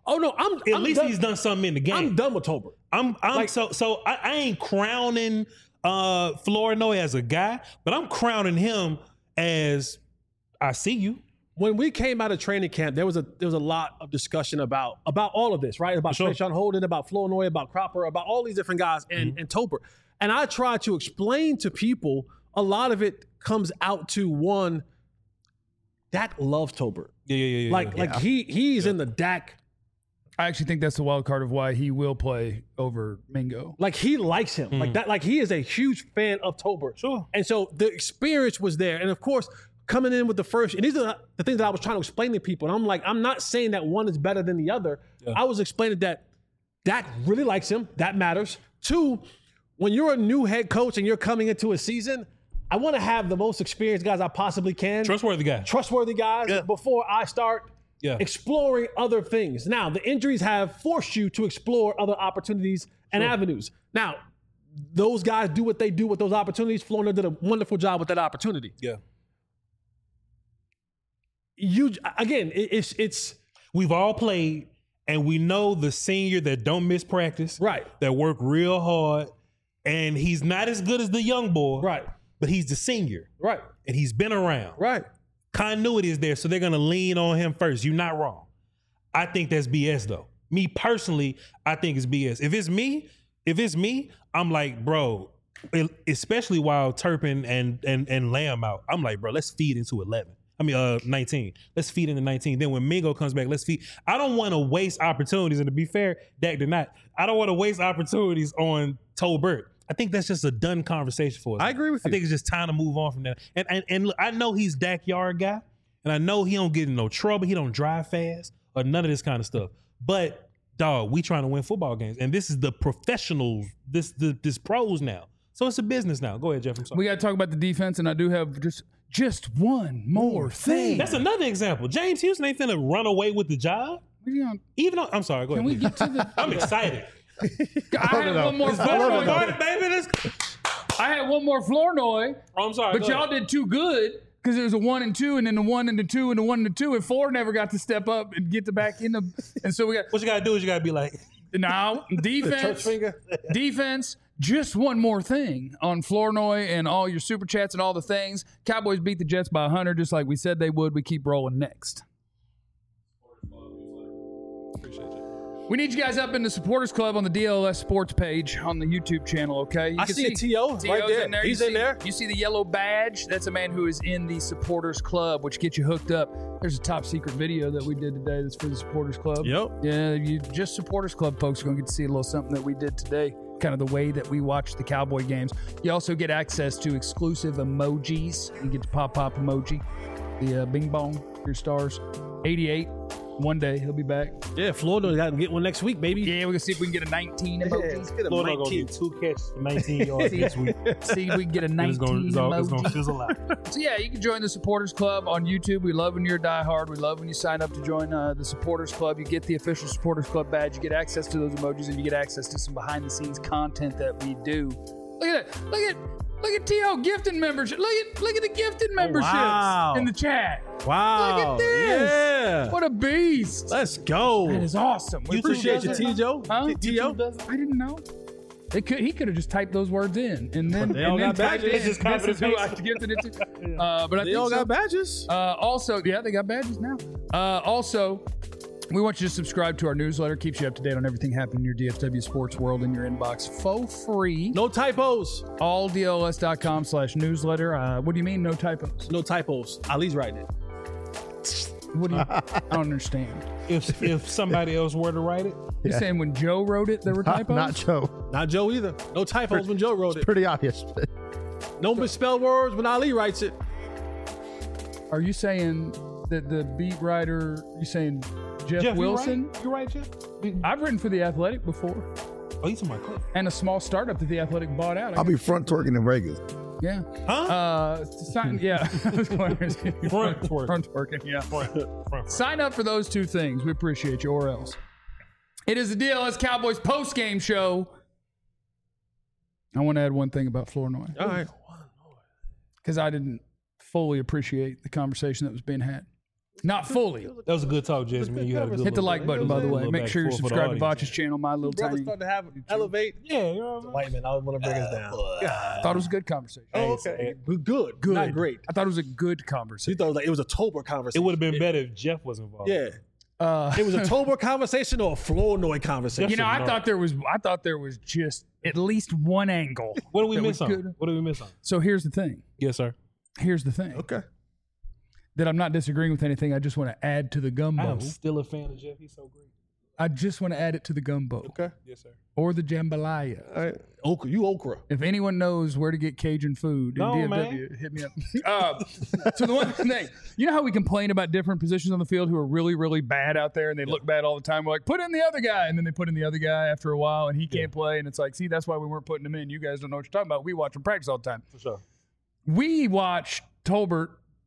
Oh no, I'm At I'm least done, he's done something in the game. I'm done with Tolbert. I'm I'm Like- so so I, I ain't crowning uh Flournoy as a guy, but I'm crowning him as I see you. When we came out of training camp, there was a there was a lot of discussion about about all of this, right? About Sure. Trayshawn Holden, about Flournoy, about Cropper, about all these different guys, and Mm-hmm. and Tolbert. And I try to explain to people a lot of it comes out to one. Dak loves Tolbert. Yeah, yeah, yeah. yeah Like yeah. like he he's in the Dak. I actually think that's the wild card of why he will play over Mingo. Like he likes him. Like that. Like he is a huge fan of Tolbert. Sure. And so the experience was there. And of course, coming in with the first, and these are the things that I was trying to explain to people. And I'm like, I'm not saying that one is better than the other. I was explaining that Dak really likes him. That matters. Two, when you're a new head coach and you're coming into a season, I want to have the most experienced guys I possibly can. Trustworthy guy. Trustworthy guys before I start Yeah. exploring other things. Now, the injuries have forced you to explore other opportunities and avenues. Now, those guys do what they do with those opportunities. Florida did a wonderful job with that opportunity. Yeah. You again, it, it's it's We've all played, and we know the senior that don't miss practice, right, that work real hard, and he's not as good as the young boy, right, but he's the senior, right, and he's been around. right. Continuity is there, so they're gonna lean on him first. You're not wrong. I think that's B S though. Me personally, I think it's B S. If it's me, if it's me, I'm like, bro, especially while Turpin and and and Lamb out, I'm like, bro, let's feed into eleven. I mean, uh, nineteen. Let's feed into nineteen. Then when Mingo comes back, let's feed. I don't want to waste opportunities. And to be fair, Dak did not. I don't want to waste opportunities on Tolbert. I think that's just a done conversation for us. I agree with I you. think it's just time to move on from that. And and and look, I know he's Dak Yard guy, and I know he don't get in no trouble. He don't drive fast or none of this kind of stuff. But dog, we trying to win football games, and this is the professionals. This the this pros now. So it's a business now. Go ahead, Jeff. I'm sorry. We got to talk about the defense, and I do have just just one more thing. That's another example. James Houston ain't finna run away with the job. What are you on? Even though I'm sorry, go Can ahead. we get to the? I'm excited. I had no. one more It's not Flournoy. over, no. Started, baby. Let's- I had one more Flournoy, Oh, I'm sorry. but go y'all ahead. did too good because there was a one and two, and then the one and the two, and the one and the two, and four never got to step up and get the back in the. And so we got What you gotta do is you gotta be like, now Church defense, finger. defense. Just one more thing on Flournoy and all your super chats and all the things. Cowboys beat the Jets by one hundred, just like we said they would. We keep rolling next. We need you guys up in the supporters club on the D L S Sports page on the YouTube channel, okay? You I can see a T O right T O's there. in there. He's you in see, there. You see the yellow badge? That's a man who is in the supporters club, which gets you hooked up. There's a top secret video that we did today that's for the supporters club. Yep. Yeah, you just supporters club folks are going to get to see a little something that we did today, kind of the way that we watch the Cowboy games. You also get access to exclusive emojis. You get the pop pop emoji, the uh, bing bong, your stars. eighty-eight. One day he'll be back. Yeah, Florida got to get one next week, baby. Yeah, we're gonna see if we can get a nineteen emoji. Florida gonna get two catches for nineteen yards this week. See if we can get a It's nineteen gonna, it's all, it's gonna emoji. fizzle out. So yeah, you can join the supporters club on YouTube. We love when you're a diehard. We love when you sign up to join uh, the supporters club. You get the official supporters club badge. You get access to those emojis, and you get access to some behind the scenes content that we do. Look at that! Look at look at T O gifting membership. Look at look at the gifted memberships wow. in the chat. Wow. Look at this! Yeah. What a beast! Let's go. That is awesome. We YouTube Appreciate does you, it? T Joe. Huh? T O. I didn't know. They could. He could have just typed those words in, and then, But they all and then got typed badges. in, Just copy this is and who I paste. gifted it to. Uh, but I They think all so. got badges. Uh, also, yeah, they got badges now. Uh, also, we want you to subscribe to our newsletter. Keeps you up to date on everything happening in your D F W sports world in your inbox for free. No typos. all D L S dot com slash newsletter. Uh, what do you mean, no typos? No typos. Ali's writing it. What do you? I don't understand. If if somebody else were to write it, You're saying when Joe wrote it, there were Not, typos? not Joe. Not Joe either. No typos when Joe wrote it. Pretty obvious. No misspelled words when Ali writes it. Are you saying that the beat writer, you saying Jeff, Jeff, Wilson? you right? You right, Jeff? I've written for The Athletic before, Oh, you talking about Cliff? and a small startup that The Athletic bought out. I I'll be front twerking in Vegas. Yeah. Huh? Uh, sign, yeah. front Front twerk. Front twerking, yeah. Front, front. Sign up for those two things. We appreciate you, or else. It is the D L S Cowboys post-game show. I want to add one thing about Flournoy, All right. because I didn't fully appreciate the conversation that was being had. Not fully. That was a good talk, Jasmine. You had a good Hit the little- like button, by the way. Make sure you're subscribed to Botch's channel, my little Brother tiny. starting to have elevate. Yeah, you know what I'm White man, I want to bring us down. Thought it was a good conversation. Oh, okay. Good, good, Good. not great. I thought it was a good You conversation. thought it was like it was a Tober It conversation. would have been better if Jeff was involved. Yeah, Uh, it was a Tober conversation or a Flournoy conversation. you know, I no. thought there was. I thought there was just at least one angle. What did we that miss was on? good. What did we miss on? So here's the thing. Yes, sir. Here's the thing. Okay. That I'm not disagreeing with anything. I just want to add to the gumbo. I'm still a fan of Jeff. He's so great. I just want to add it to the gumbo Okay. Yes, sir. or the jambalaya. All right. okra, you okra. If anyone knows where to get Cajun food in No, D F W, hit me up. uh, so the one thing, you know how we complain about different positions on the field who are really, really bad out there and they look bad all the time? We're like, put in the other guy. And then they put in the other guy after a while and he can't play. And it's like, see, that's why we weren't putting him in. You guys don't know what you're talking about. We watch him practice all the time. For sure. We watch Tolbert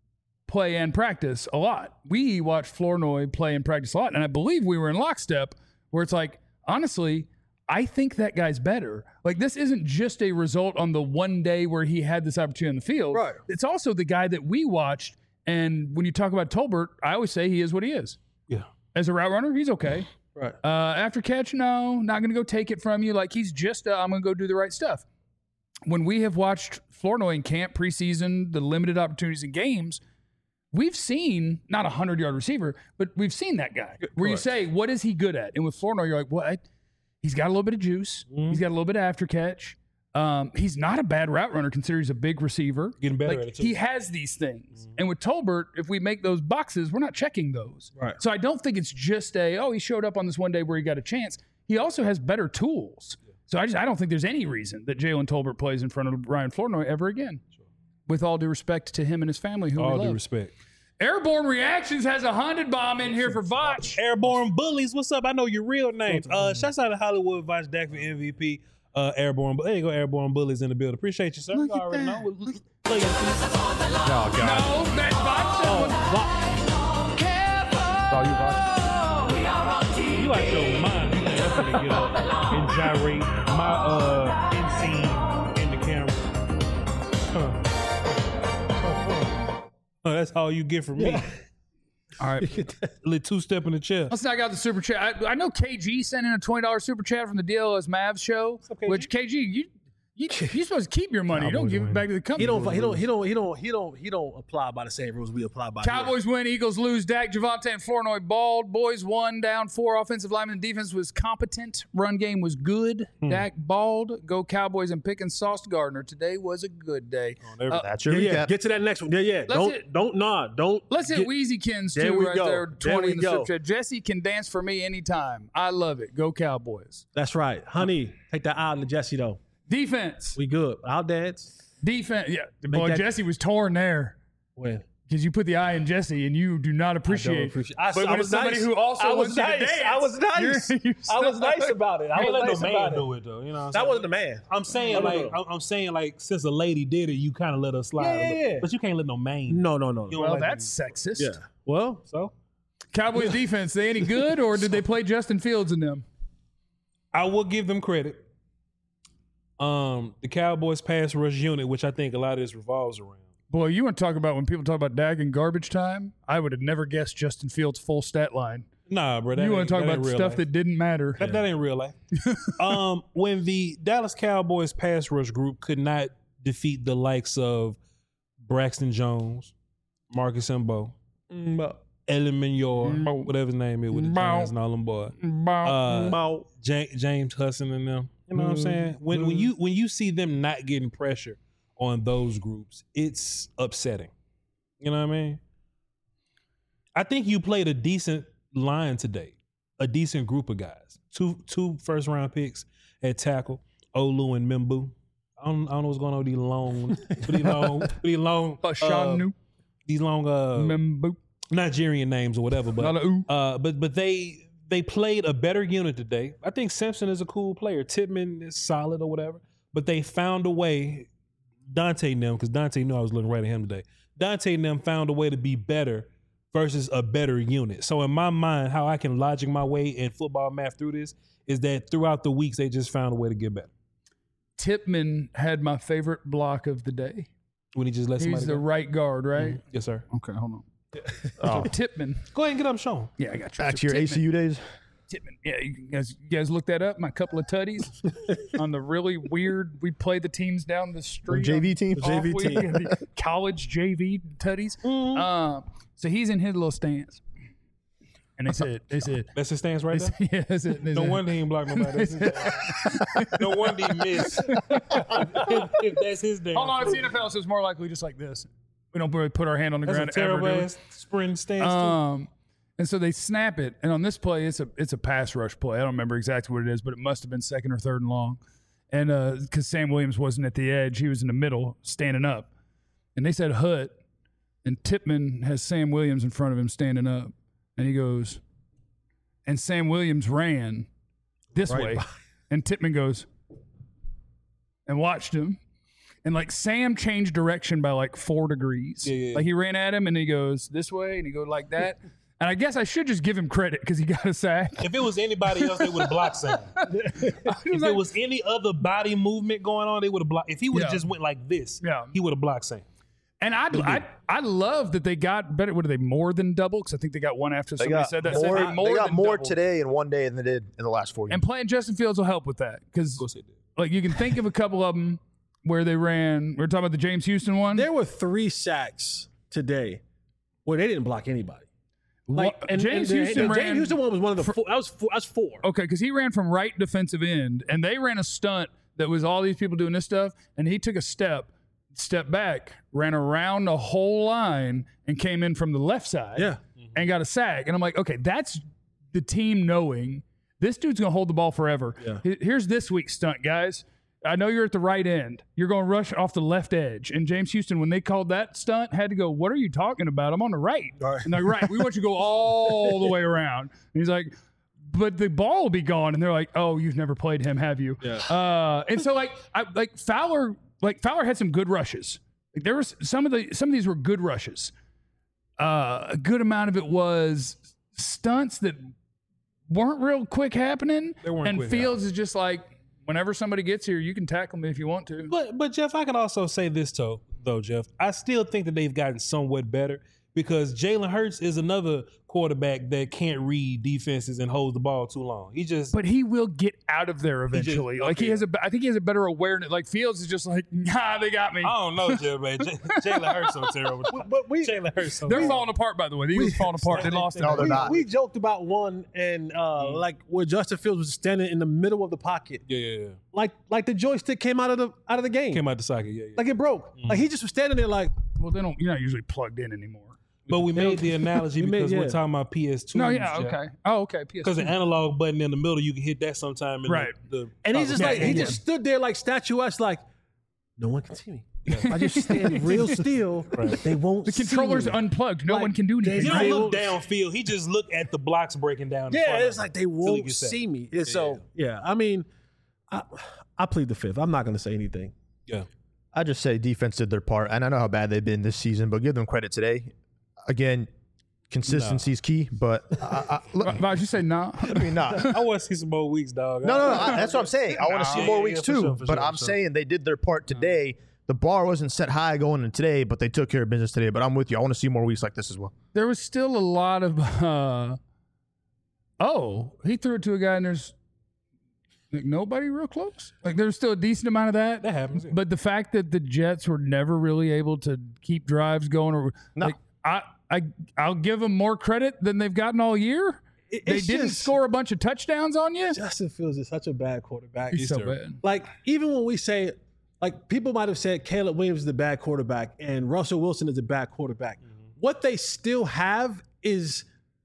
play and practice a lot. We watch Flournoy play and practice a lot. And I believe we were in lockstep where it's like, honestly, I think that guy's better. Like, this isn't just a result on the one day where he had this opportunity on the field. Right. It's also the guy that we watched. And when you talk about Tolbert, I always say he is what he is. Yeah. As a route runner, he's okay. Right. Uh, after catch, no, not going to go take it from you. Like, he's just, uh, I'm going to go do the right stuff. When we have watched Flournoy in camp, preseason, the limited opportunities in games, we've seen not a hundred-yard receiver, but we've seen that guy where you say, what is he good at? And with Flournoy, you're like, what? He's got a little bit of juice. Mm-hmm. He's got a little bit of after catch. Um, he's not a bad route runner considering he's a big receiver. Getting better Like, at it, too. he has these things. And with Tolbert, if we make those boxes, we're not checking those. Right. So I don't think it's just a, oh, he showed up on this one day where he got a chance. He also has better tools. So I just I don't think there's any reason that Jalen Tolbert plays in front of Ryan Flournoy ever again. With all due respect to him and his family, who All we due love. respect. Airborne Reactions has a hundred bomb in here for Vach. Airborne Bullies, what's up? I know your real names. Uh, shouts out to Hollywood Voch Dak for M V P. Uh, Airborne, there you go, Airborne Bullies in the building. Appreciate you, sir. Look you at already that. know. Look, look, Oh, God. No, that's Vach. Oh, you Voch. you out your mind. You can definitely get up and gyrate my uh inseam in the camera. Huh. Oh, that's all you get from me. All right. Little two step in the chair. Let's knock out the super chat. I, I know K G sent in a twenty dollars super chat from the D L S Mavs show, up, K G? which K G, you, you, you're supposed to keep your money. You don't Cowboys give it win. back to the company. He don't. He don't. He don't. He don't. He don't. He don't apply by the same rules we apply by. here. Cowboys win, Eagles lose. Dak, Javante, and Flournoy balled. Boys won, down four. Offensive lineman defense was competent. Run game was good. Dak balled. Go Cowboys and picking Sauce Gardner. Today was a good day. Uh, That's your Yeah, yeah. recap. Get to that next one. Yeah, yeah. Don't. hit- Don't. Nah. Don't. Let's hit get- Weezykins There too we right go. there. There twenty we in the go. super chat. Jesse can dance for me anytime. I love it. Go Cowboys. That's right, honey. Take that out of Jesse though. Defense. We good. I'll dance. Defense. Yeah. Boy, that- Jesse was torn there. When Because you put the eye in Jesse and you do not appreciate. appreciate- I- but I when was it's somebody nice. who also I was wants you to nice. dance, I was nice. you're- you I was suck. nice about it. I Ain't was let nice no about man it. do it though. You know what I'm That saying? wasn't the man. I'm saying No, no, like no. I'm, I'm saying like since a lady did it, you kind of let her slide. Yeah, a little. yeah, yeah. But you can't let no man. No, no, no. You no. don't Well, like that's sexist. Yeah. Well, so. Cowboys defense, they any good or did they play Justin Fields in them? I will give them credit. Um, the Cowboys pass rush unit, which I think a lot of this revolves around. Boy, you want to talk about when people talk about Dak and garbage time? I would have never guessed Justin Fields' full stat line. Nah, bro. That You want ain't- to talk that about ain't real stuff life. that didn't matter. That, that ain't real life. um, when the Dallas Cowboys pass rush group could not defeat the likes of Braxton Jones, Marcus Mbo, Ellen Mignor, Mbo. whatever his name is with the Mbo. Giants and all them boys. Uh, Ja- James Hudson and them. You know what I'm saying? When when you when you see them not getting pressure on those groups, it's upsetting. You know what I mean? I think you played a decent line today, a decent group of guys. Two two first round picks at tackle, Olu and Mimbu. I don't, I don't know what's going on with these long, with these long, with these long, uh, Ashanu, these long uh, Membu, Nigerian names or whatever. But Lalau. uh, but but they they played a better unit today. I think Simpson is a cool player. Titman is solid or whatever. But they found a way. Dante and them, because Dante knew I was looking right at him today. Dante and them found a way to be better versus a better unit. So in my mind, how I can logic my way in football math through this is that throughout the weeks they just found a way to get better. Tipman had my favorite block of the day. When he just let somebody He's the go. right guard, right? Yes, sir. Okay, hold on. Oh. Tippmann. Go ahead and get up, Sean. Yeah, I got you. Back So to your Tippmann. A C U days. Tippmann. Yeah, you guys, you guys look that up. My couple of tutties on the really weird. We play the teams down the street. J V team? J V team. The college J V tutties. Mm-hmm. Um, so he's in his little stance, and they said, they said, That's his stance right there. yeah, that's it. They No said- wonder he ain't block nobody. That's his damn. No wonder he missed. if, if that's his damn. Hold on, it's the N F L, so it's more likely just like this. We don't really put our hand on the That's a ground ever. terrible do we? ass sprint stance. too. Um, and so they snap it, and on this play, it's a it's a pass rush play. I don't remember exactly what it is, but it must have been second or third and long. And because Sam Williams wasn't at the edge, he was in the middle, standing up. And they said hut, and Tippmann has Sam Williams in front of him standing up, and he goes, and Sam Williams ran this Right way, by- and Tippmann goes, and watched him. And like Sam changed direction by like four degrees. Yeah, yeah, yeah. Like he ran at him and he goes this way and he goes like that. And I guess I should just give him credit because he got a sack. If it was anybody else, they would have blocked Sam. If there was any other body movement going on, they would have blocked. If he would have Yeah. just went like this, Yeah. he would have blocked Sam. And I, I, I love that they got better. What are they more than double? Because I think they got one after They somebody got said that. more, Said they they got than more double. today in one day than they did in the last four years. And playing Justin Fields will help with that because Of course they did. like you can think of a couple of them where they ran. We are talking about the James Houston one. There were three sacks today where they didn't block anybody. Like What- and, James and the- Houston the ran. James Houston one was one of the four. That was four. That's four. Okay, because he ran from right defensive end, and they ran a stunt that was all these people doing this stuff, and he took a step, stepped back, ran around the whole line, and came in from the left side, Yeah. and got a sack. And I'm like, okay, that's the team knowing this dude's gonna hold the ball forever. Yeah. He- Here's this week's stunt, guys. I know you're at the right end. You're going to rush off the left edge. And James Houston, when they called that stunt, had to go, what are you talking about? I'm on the right. Right. And they're like, right, we want you to go all the way around. And he's like, but the ball will be gone. And they're like, oh, you've never played him, have you? Yeah. Uh, and so like, I, like Fowler, like Fowler had some good rushes. Like there was some of the, some of these were good rushes. Uh, a good amount of it was stunts that weren't real quick happening. They weren't and quick Fields is just like, whenever somebody gets here, you can tackle me if you want to. But but Jeff, I can also say this though, though Jeff, I still think that they've gotten somewhat better because Jalen Hurts is another quarterback that can't read defenses and holds the ball too long. He just But he will get out of there just- eventually. like he okay. has a, I think he has a better awareness. Like Fields is just like, nah, they got me. I don't know, Jeff, man. J- Jalen Hurts so terrible. But we Jalen Hurts so They're terrible. falling apart, by the way. The Eagles falling apart. They lost. No, it. they're we, not. we joked about one and uh, like where Justin Fields was standing in the middle of the pocket, Yeah, yeah, yeah. like like the joystick came out of the out of the game, Came out the socket, yeah, yeah. like it broke. Like he just was standing there, like Well, they don't. You're not usually plugged in anymore. But we made the analogy We made- because yeah. we're talking about P S two. No, yeah, okay. Oh, okay. P S Because the analog button in the middle, you can hit that sometime. In Right. The, the and he's just Yeah, like yeah, he yeah. just stood there like statuesque, like no one can see me. I just stand real still. They won't. The controller's see me. unplugged. No Like, one can do they- anything. He don't They look will- downfield. He just look at the blocks breaking down. in front Yeah, of it's him like they till he won't gets sacked. see me. And so yeah, I mean, I, I plead the fifth. I'm not going to say anything. Yeah. I just say defense did their part, and I know how bad they've been this season, but give them credit today. Again, consistency is key, but I, I, look, Why would you say no? I mean, not. I want to see some more weeks, dog. No, no, no. I, that's what I'm saying. I want to see Yeah, more yeah, weeks yeah, for too. sure, for but sure, I'm for sure. saying they did their part today. The bar wasn't set high going in today, but they took care of business today. But I'm with you. I want to see more weeks like this as well. There was still a lot of. Uh, oh, he threw it to a guy, and there's like nobody real close. Like there's still a decent amount of that. That happens, yeah. But the fact that the Jets were never really able to keep drives going, or No. like I, I, I'll give them more credit than they've gotten all year. It- They it's didn't just- score a bunch of touchdowns on you. Justin Fields is such a bad quarterback. He's so terrible. bad. Like even when we say, like people might have said Caleb Williams is a bad quarterback and Russell Wilson is a bad quarterback. What they still have is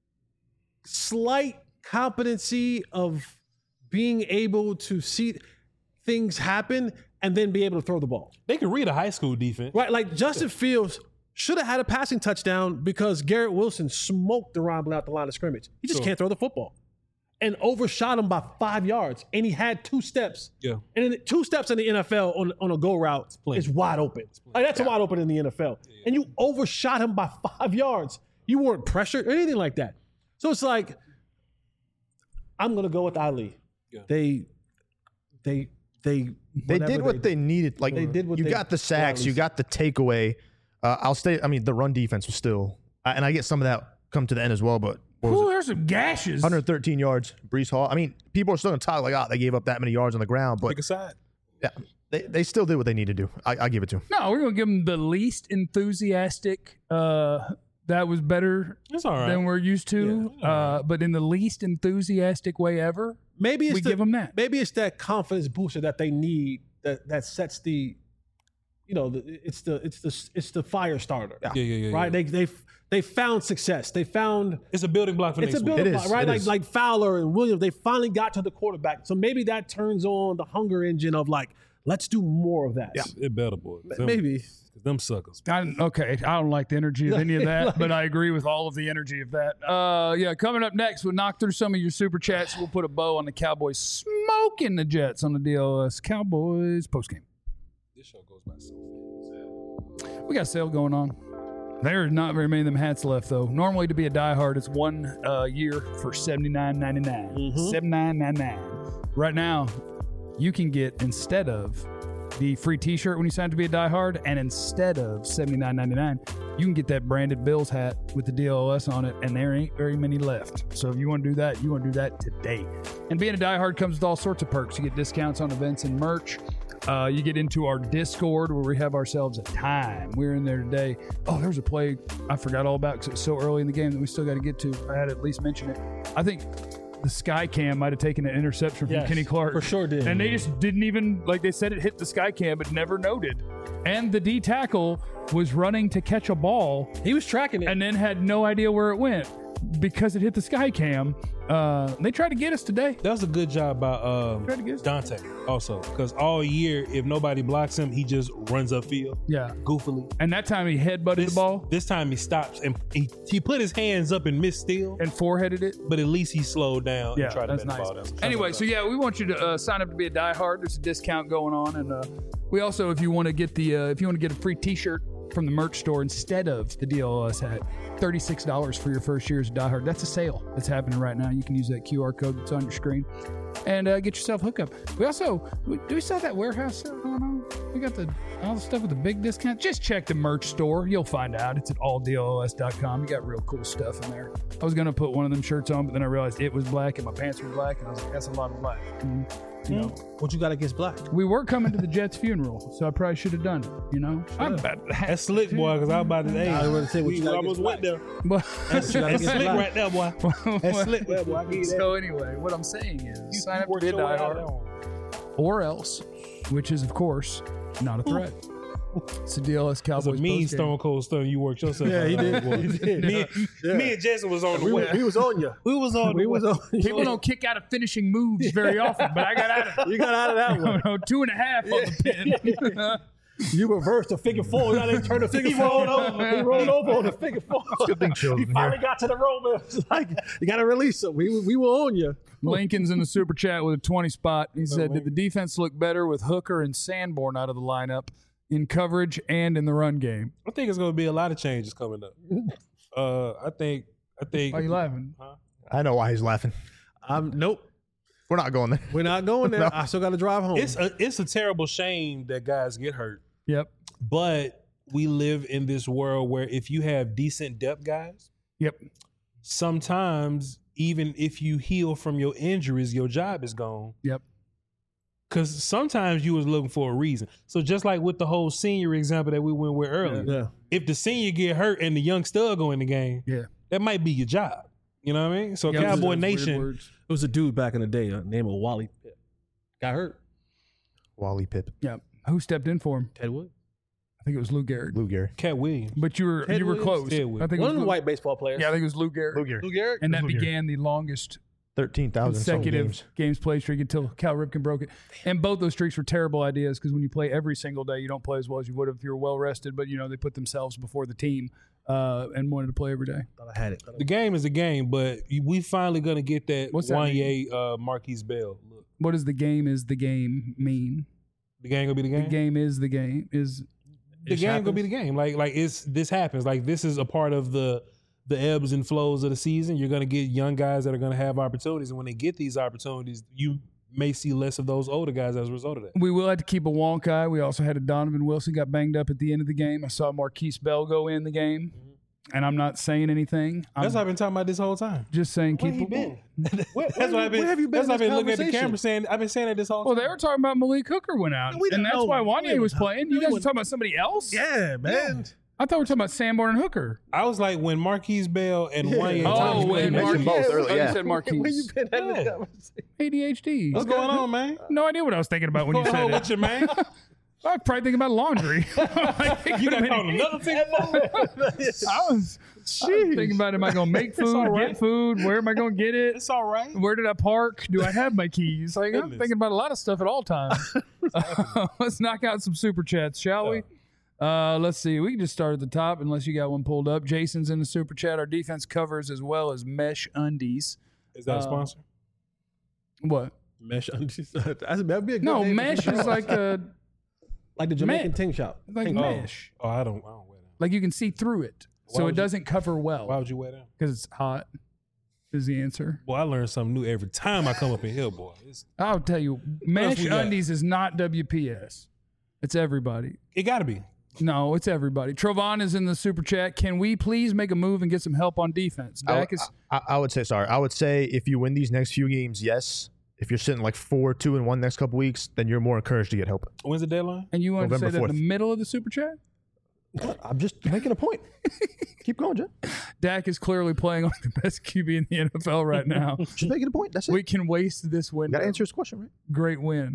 slight competency of being able to see things happen and then be able to throw the ball. They can read a high school defense. Right, like Justin Fields should have had a passing touchdown because Garrett Wilson smoked Deron Bland out the line of scrimmage. He just Sure. can't throw the football. And overshot him by five yards. And he had two steps. Yeah. And then two steps in the N F L on, on a go route plenty. is wide open. Like that's wide open in the N F L. And you overshot him by five yards. You weren't pressured or anything like that. So it's like, I'm gonna go with Ali. Yeah. They they they They whatever did what they, did. needed. Like They did what you they- got the sacks, yeah, you got the takeaway. Uh, I'll stay. I mean, the run defense was still I, and I get some of that come to the end as well, but what was Ooh, it? there's some gashes. one hundred thirteen yards, Brees Hall. I mean, people are still going to talk like, oh, they gave up that many yards on the ground, but Pick a side. yeah, they, they still did what they need to do. I, I give it to them. No, we're gonna give them the least enthusiastic. Uh, that was better It's all right. than we're used to, Yeah, all uh, but in the least enthusiastic way ever. Maybe it's We the, give 'em that. Maybe it's that confidence booster that they need that that sets the, you know, the, it's the it's the it's the fire starter. yeah, yeah, yeah. Right? yeah. They they they found success. They found It's a building block for it's next a week. building It block, is, right? it Like is. like Fowler and Williams, they finally got to the quarterback. So maybe that turns on the hunger engine of like, let's do more of that. Yeah. It better, boy. Them, Maybe. them suckers. I, okay, I don't like the energy of any of that, but I agree with all of the energy of that. Uh, yeah, coming up next, we'll knock through some of your super chats. We'll put a bow on the Cowboys smoking the Jets on the D L S Cowboys postgame. This show goes by so fast. We got a sale going on. There's not very many of them hats left, though. Normally, to be a diehard, it's one uh, year for seventy-nine ninety-nine. Mhm. seventy-nine ninety-nine. Right now, you can get, instead of the free T-shirt when you sign up to be a diehard, and instead of seventy-nine ninety-nine, you can get that branded Bills hat with the D L S on it, and there ain't very many left. So if you want to do that, you want to do that today. And being a diehard comes with all sorts of perks. You get discounts on events and merch. Uh, you get into our Discord where we have ourselves a time. We're in there today. Oh, there's a play I forgot all about because it was so early in the game that we still got to get to. I had to at least mention it. I think the Sky Cam might have taken an interception from Yes, Kenny Clark. for sure did. And they just didn't even, like they said it hit the Sky Cam, but never noted. And the D tackle was running to catch a ball He was tracking it. and then had no idea where it went because it hit the Sky Cam. Uh, they tried to get us today. That was a good job by um, Tried to get us. Dante also, because all year, if nobody blocks him, he just runs upfield Yeah. goofily. And that time he headbutted This, the ball this time he stops and he, he put his hands up and missed still, and foreheaded it. but at least he slowed down Yeah, and tried to that's bat the nice. ball down. So Anyway, so yeah, we want you to uh, sign up to be a diehard. There's a discount going on, and uh, we also, if you want to get the, uh, if you want to get a free T-shirt from the merch store instead of the D L S hat, thirty-six dollars for your first year as a diehard. That's a sale that's happening right now. You can use that Q R code that's on your screen and uh, get yourself hooked up. We also, we, do we still have that warehouse sale going on? We got the all the stuff with the big discount. Just check the merch store. You'll find out. It's at all D L S dot com. You got real cool stuff in there. I was going to put one of them shirts on, but then I realized it was black and my pants were black, and I was like, that's a lot of black. And, you know, What you got against black? we were coming to the Jets funeral, so I probably should have done it, you know? I'm that's slick, boy, because I was about to say, I was gonna say, what we you got almost against went there. But, That's, you got that's against slick black. right there, boy. That's slick right there, boy. I give you that. so anyway, what I'm saying is You- sign you up to worked be a your way out diehard, of that one. or else, which is, of course, not a threat. It's a D L S It was Cowboys a mean postgame. Stone Cold Stone. You worked yourself. Yeah, out he of did. that, boy. He did. Me, me and Jason was on the We, way. was- we was on you. We was on We the was way. on you. People don't kick out of finishing moves very often, but I got out of You got out of that one. it. Two and a half on the pin. You reversed the figure four. You got to turn the figure four over. He rolled over on the figure four. Good thing Chill's He in finally here. got to the roll. It's like, you got to release him. We, we will own you. Lincoln's in the super chat with a twenty spot. He said, did the defense look better with Hooker and Sanborn out of the lineup in coverage and in the run game? I think it's going to be a lot of changes coming up. Uh, I think. I think. Why are you laughing? I know why he's laughing. Um, nope. We're not going there. We're not going there. No. I still got to drive home. It's a it's a terrible shame that guys get hurt, Yep. but we live in this world where if you have decent depth guys, Yep. sometimes even if you heal from your injuries, your job is gone. Yep. Because sometimes you was looking for a reason. So just like with the whole senior example that we went with earlier, yeah. if the senior get hurt and the young stud go in the game, Yeah. that might be your job. You know what I mean? So Yeah, Cowboy those are weird Nation, words. It was a dude back in the day, uh, named Wally Pitt. Got hurt. Wally Pip, Yeah. Who stepped in for him? Ted Wood. I think it was Lou Gehrig. Lou Gehrig. Cat Williams. But you were Ted you were Williams? close. Ted I Williams. think it One was of the Lou, white baseball players. Yeah, I think it was Lou Gehrig. Lou Gehrig. Lou Gehrig. And that Lou Gehrig. began the longest thirteen thousand consecutive games. games. played streak until Cal Ripken broke it. And both those streaks were terrible ideas because when you play every single day, you don't play as well as you would if you were well rested. But you know they put themselves before the team uh, and wanted to play every day. Thought I had it. The game is a game, but we finally gonna get that What's that Wanye uh, Marquise Bell look. What does the game is the game mean? The game gonna be the game. The game is the game is the game gonna be the game. Like like it's this happens. Like this is a part of the the ebbs and flows of the season. You're gonna get young guys that are gonna have opportunities, and when they get these opportunities, you may see less of those older guys as a result of that. We will have to keep a wonk eye. We also had a Donovan Wilson got banged up at the end of the game. I saw Marquise Bell go in the game. and I'm not saying anything. I'm That's what I've been talking about this whole time. just saying Where keep he it. been? Where, That's what I've been. where have you been? That's why I've in been this looking at the conversation? camera saying. I've been saying that this whole Well, time. they were talking about Malik Hooker went out, We and don't that's know. why We Wanye was don't- playing. we You guys were wouldn't- talking about somebody else? Yeah, man. I thought we were talking about Sanborn and Hooker. I was like when Marquise Bell and Yeah. Wanye. Oh, Thomas when played. mentioned Marquise. both earlier, Oh, yeah. you said Marquise. Where you been at Yeah. this conversation? A D H D. What's going on, man? No idea what I was thinking about when you said Oh, it. what's your man? I was probably thinking about laundry. Like, it You could've got been called any- another thing. I was, I was thinking about, am I going to make food, all right. get food? Where am I going to get it? It's all right. Where did I park? Do I have my keys? Like, I'm Goodness. thinking about a lot of stuff at all times. Uh, let's knock out some super chats, shall we? Uh, let's see. We can just start at the top unless you got one pulled up. Jason's in the super chat. Our defense covers as well as mesh undies. Is that a Uh, sponsor? What? Mesh undies. That'd be a good No, name for mesh some is shop. like a like the Jamaican me- ting shop. like Ting- mesh. Oh, I don't. I don't wear that. Like you can see through it, Why so would it you- doesn't cover well Why would you wear that? because it's hot. Is the answer? Boy, I learn something new every time I come up in here, boy. It's, I'll tell you, else mesh we got? undies is not W P S. It's everybody. it got to be. No, it's everybody. Trovon is in the super chat. Can we please make a move and get some help on defense? I, Dak is I, I would say sorry. I would say if you win these next few games, yes. If you're sitting like four, two, and one next couple weeks, then you're more encouraged to get help. When's the deadline? and you want to say November that in fourth. the middle of the super chat? I'm just making a point. Keep going, Jen. Dak is clearly playing on the best Q B in the N F L right now. Just making a point. That's it. We can waste this You window. got to answer his question, right? Great win.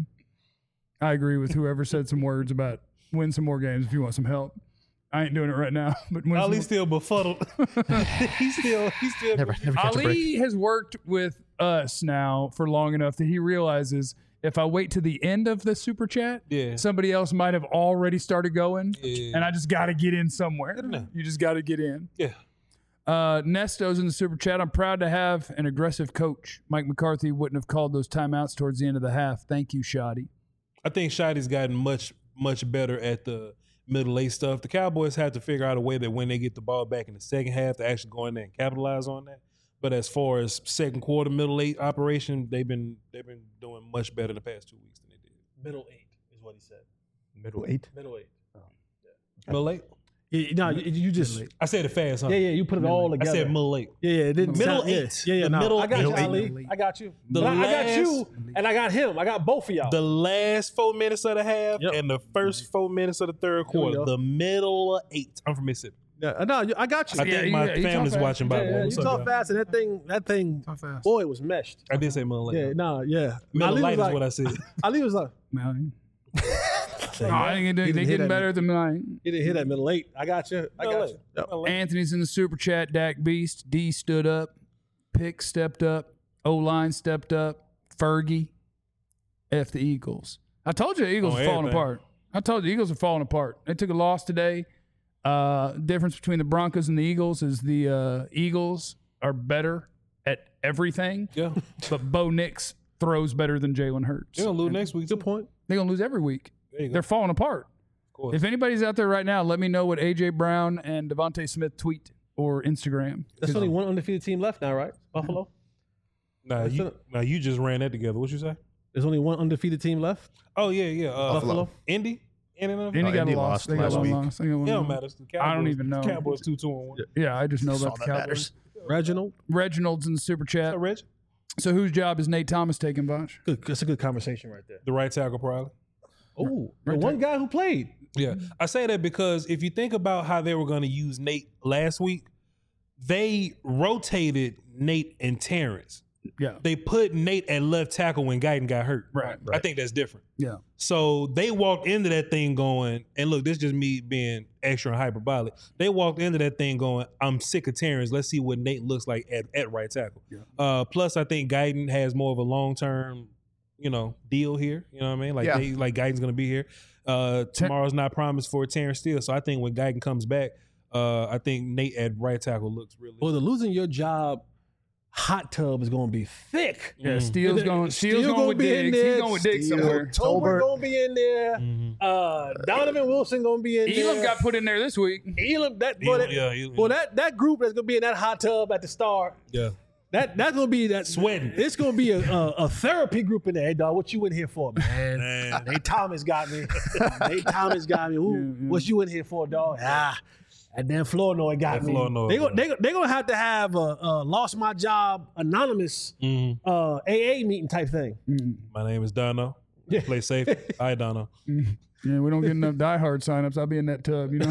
I agree with whoever said some words about win some more games if you want some help. I ain't doing it right now, but win some Ali's more. still befuddled. he's still. He's still. Never, never catch a break. Ali has worked with us now for long enough that he realizes if I wait to the end of the super chat, Yeah. somebody else might have already started going, Yeah. and I just got to get in somewhere. know. You just got to get in. Yeah. Uh, Nesto's in the super chat. I'm proud to have an aggressive coach. Mike McCarthy wouldn't have called those timeouts towards the end of the half. Thank you, Shoddy. I think Shotty's gotten much, much better at the middle late stuff. The Cowboys have to figure out a way that when they get the ball back in the second half, to actually go in there and capitalize on that. But as far as second quarter, middle late operation, they've been they've been doing much better in the past two weeks than they did. Middle eight is what he said. Middle eight. Middle eight. Middle late? Yeah, no, you, you just. I said it fast, huh? Yeah, yeah, you put it all I together. said middle late. Yeah, yeah, it didn't Middle sound, yeah, eight. Yeah, yeah, The no, middle I got you, eight. Ali. I got you. The But I, I got last- you, and I got him. I got both of y'all. The last four minutes of the half Yep. and the first four minutes of the third quarter. go. The middle eight. I'm from Mississippi. yeah, no, you- I got you. I Yeah, think you- my yeah, you talk family's fast. watching by yeah, the yeah, way. you What's up, talk y'all? fast, and that thing, that thing, Talk fast. boy, it was meshed. I did say middle late. Yeah, no, yeah. Middle Ali light was is what I like, said. Ali was like, Man. Oh, I think they, He they didn't hit getting that better than mine. he didn't hit that middle eight. I got you. I Middle got eight. you. Yep. Middle eight. Anthony's in the super chat. Dak Beast. D stood up. Pick stepped up. O line stepped up. Fergie. F the Eagles. I told you the Eagles On are falling everything. apart. I told you the Eagles are falling apart. They took a loss today. Uh, difference between the Broncos and the Eagles is the uh, Eagles are better at everything, Yeah. but Bo Nix throws better than Jalen Hurts. They're going to lose next week. Good too. point. They're gonna lose every week. There you go. They're falling apart. Of course. If anybody's out there right now, let me know what A J Brown and Devontae Smith tweet or Instagram. There's only one undefeated team left now, right? Buffalo. Nah, That's you, it. nah, you just ran that together. What you say? There's only one undefeated team left. Oh, yeah, yeah. Uh, Buffalo. Indy? Indy, no? Indy Oh, got Indy a loss. lost They got last one week. loss. They got one It don't loss. matter. It's the I don't Cowboys- even know. Cowboys two, two, and one. Yeah, I just know That's about all the that Cowboys. matters. Reginald. Reginald's in the super chat. So, Reg, So whose job is Nate Thomas taking, Bosh? Good. That's a good conversation right there. the right tackle, probably. Oh, the one guy who played. Yeah. I say that because if you think about how they were going to use Nate last week, they rotated Nate and Terrence. Yeah. They put Nate at left tackle when Guyton got hurt. Right. I think that's different. Yeah. So they walked into that thing going, and look, this is just me being extra and hyperbolic. They walked into that thing going, I'm sick of Terrence. Let's see what Nate looks like at, at right tackle. Yeah. Uh, plus, I think Guyton has more of a long term, you know, deal here. You know what I mean? Like, Yeah. they, like Guyton's going to be here. Uh, tomorrow's not promised for Terrence Steele. So I think when Guyton comes back, uh, I think Nate at right tackle looks really. Well, the losing your job hot tub is going to be thick. Yeah, Steele's going. Steele's Steele going with be in Diggs. there. He's going with Diggs Steele. somewhere. Tober going to be in there. Mhm. Uh, Donovan Wilson going to be in Elam there. got put in there this week. Elam. That, boy, Elam, that, yeah, Elam. well, that that group that's going to be in that hot tub at the start. Yeah. That that's gonna be that Sweating. It's gonna be a, a, a therapy group in there. Hey, dog, what you in here for, man? Man. Nate Thomas got me. Nate Thomas got me. Ooh, Yeah, yeah. what you in here for, dog? Ah, And then Flournoy got That me. Flournoy, They go, man. they go, they gonna have to have a, a lost my job anonymous Mhm. uh, A A meeting type thing. My name is Dono. Play safe. Hi, Dono. Yeah, we don't get enough diehard signups. I'll be in that tub, you know.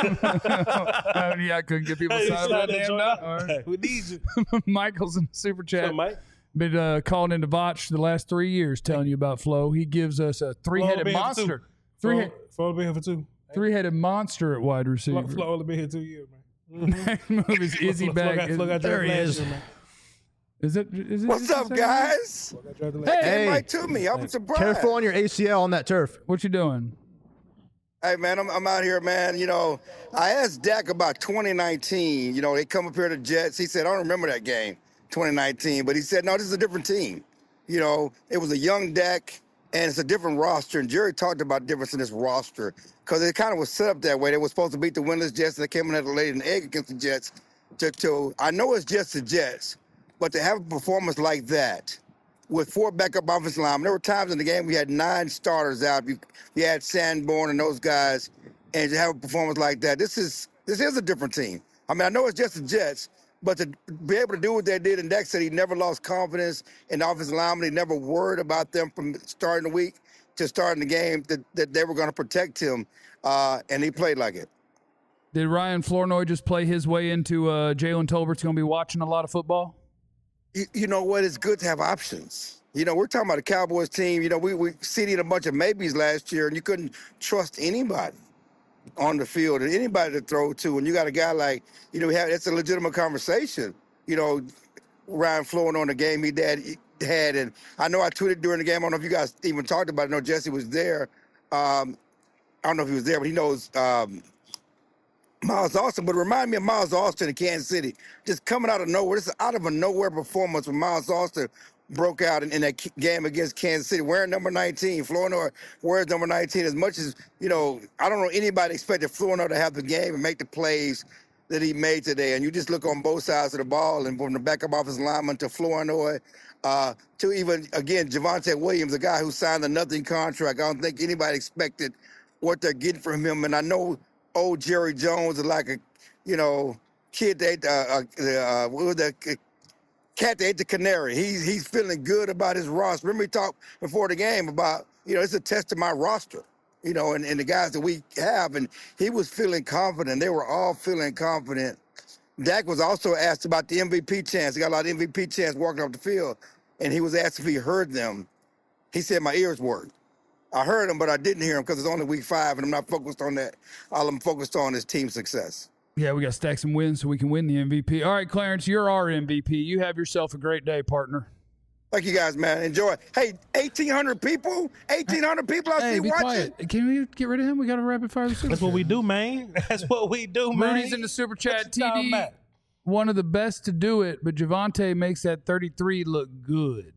Yeah, I couldn't get people to sign up for that damn diehard. We need you. Michael's in the super What's chat. up, Mike? Been uh, calling into Vach the last three years, telling you about Flo. He gives us a three-headed been here for two. monster, three Flo been here for two. three-headed monster at wide receiver. Flo, Flo only been here two years, man. Next move is Izzy Flo, Flo back. got, Flo got There drafted he last is. year, man. Is it? Is it? What's is it up, second? guys? Flo got drafted last Hey, year. Hey. Mike to me. I'm surprised. Careful on your A C L on that turf. What you doing? Hey, man, I'm, I'm out here, man. You know, I asked Dak about twenty nineteen. You know, they come up here to Jets. He said, I don't remember that game, twenty nineteen. But he said, no, this is a different team. You know, it was a young Dak, and it's a different roster. And Jerry talked about the difference in this roster because it kind of was set up that way. They were supposed to beat the winless Jets, and they came in at the late in the egg against the Jets. To, to, I know it's just the Jets, but to have a performance like that, with four backup offensive linemen. There were times in the game we had nine starters out. You, you had Sanborn and those guys, and to have a performance like that, this is this is a different team. I mean, I know it's just the Jets, but to be able to do what they did, and Dak said he never lost confidence in the offensive linemen. He never worried about them from starting the week to starting the game, that, that they were going to protect him, uh, and he played like it. Did Ryan Flournoy just play his way into uh, Jalen Tolbert's going to be watching a lot of football? You, you know what? It's good to have options. You know, we're talking about the Cowboys team. You know, we we seeded a bunch of maybes last year, and you couldn't trust anybody on the field and anybody to throw to. And you got a guy like, you know, we have, it's a legitimate conversation. You know, Ryan Flournoy on the game he dad had, and I know I tweeted during the game. I don't know if you guys even talked about it. I know Jesse was there. Um, I don't know if he was there, but he knows. Um, Miles Austin, but remind me of Miles Austin in Kansas City, just coming out of nowhere. This is out of a nowhere performance when Miles Austin broke out in, in that k- game against Kansas City, wearing number nineteen. Flournoy wears number nineteen. As much as, you know, I don't know anybody expected Flournoy to have the game and make the plays that he made today. And you just look on both sides of the ball, and from the backup offensive lineman to Flournoy, uh, to even, again, Javonte Williams, a guy who signed a nothing contract. I don't think anybody expected what they're getting from him. And I know old Jerry Jones is like a, you know, kid that ate the, uh, uh, what was the uh, cat that ate the canary. He's he's feeling good about his roster. Remember, we talked before the game about, you know, it's a test of my roster, you know, and, and the guys that we have. And he was feeling confident. They were all feeling confident. Dak was also asked about the M V P chance. He got a lot of M V P chance walking off the field. And he was asked if he heard them. He said, my ears worked. I heard him, but I didn't hear him because it's only week five, and I'm not focused on that. All I'm focused on is team success. Yeah, we got to stack some wins so we can win the M V P. All right, Clarence, you're our M V P. You have yourself a great day, partner. Thank you guys, man. Enjoy. Hey, eighteen hundred people? eighteen hundred people I Hey, see be watching? quiet. Can we get rid of him? We got to rapid fire the super That's what chat. we do, man. That's what we do, man. Rudy's in the super chat. T you talking D, about? one of the best to do it, but Javonte makes that thirty-three look good.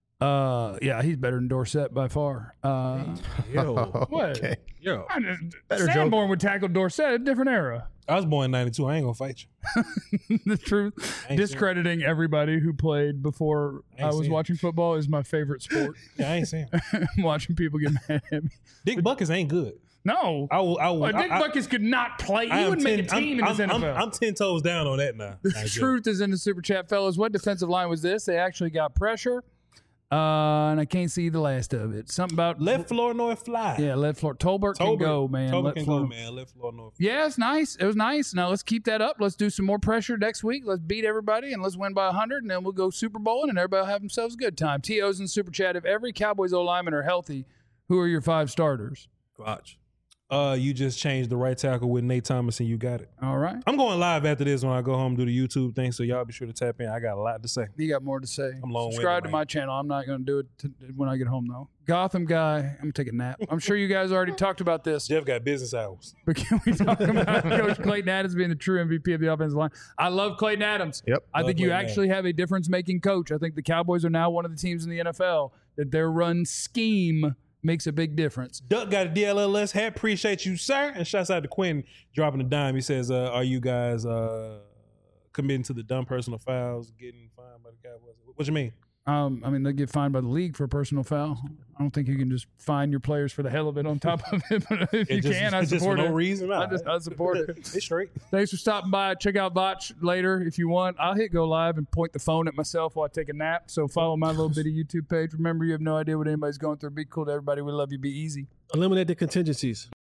Uh, yeah, he's better than Dorsett by far. Uh, Yo, what? Okay. yo. I just- Better joke. Sanborn would tackle Dorsett, a different era. I was born in ninety-two. I ain't gonna fight you. The truth, ain't discrediting everybody who played before I ain't I was seen it. watching football is my favorite sport. Yeah, I ain't saying. Watching people get mad at me. Dick Buckus ain't good. No, I will. I will. Well, Dick I, I, Buckus could not play. He I am wouldn't make a ten- team I'm, in this I'm, N F L. I'm, I'm ten toes down on that now. The truth is in the super chat, fellas. What defensive line was this? They actually got pressure, uh, and I can't see the last of it. Something about Let Flournoy fly. Yeah, let Floor Tolbert, can go, man. Tolbert Let can Flournoy- go, man. Let Flournoy. Yeah, it's nice. It was nice. Now let's keep that up. Let's do some more pressure next week. Let's beat everybody and let's win by one hundred, and then we'll go Super Bowling, and everybody will have themselves a good time. T O's in the super chat. If every Cowboys O lineman are healthy, who are your five starters? Watch. Uh, you just changed the right tackle with Nate Thomas, and you got it. All right. I'm going live after this when I go home and do the YouTube thing, so y'all be sure to tap in. I got a lot to say. You got more to say. I'm long-winded, Subscribe to man. my channel. I'm not going to do it t- when I get home, though. Gotham guy. I'm going to take a nap. I'm sure you guys already talked about this. Jeff got business hours. But can we talk about Coach Clayton Adams being the true M V P of the offensive line? I love Clayton Adams. Yep. I Love think you Clayton actually have a difference-making coach. I think the Cowboys are now one of the teams in the N F L that their run scheme makes a big difference. Duck got a D L L S hat. Appreciate you, sir. And shouts out to Quinn dropping a dime. He says, uh, are you guys uh, committing to the dumb personal fouls, getting fined by the Cowboys? What you mean? Um, I mean, they get fined by the league for a personal foul. I don't think you can just fine your players for the hell of it on top of it. But if It you just, can, I just support for it. no reason. Nah, I, just, I support it. It's straight. Thanks for stopping by. Check out Botch later if you want. I'll hit go live and point the phone at myself while I take a nap. So follow my little bitty YouTube page. Remember, you have no idea what anybody's going through. Be cool to everybody. We love you. Be easy. Eliminate the contingencies.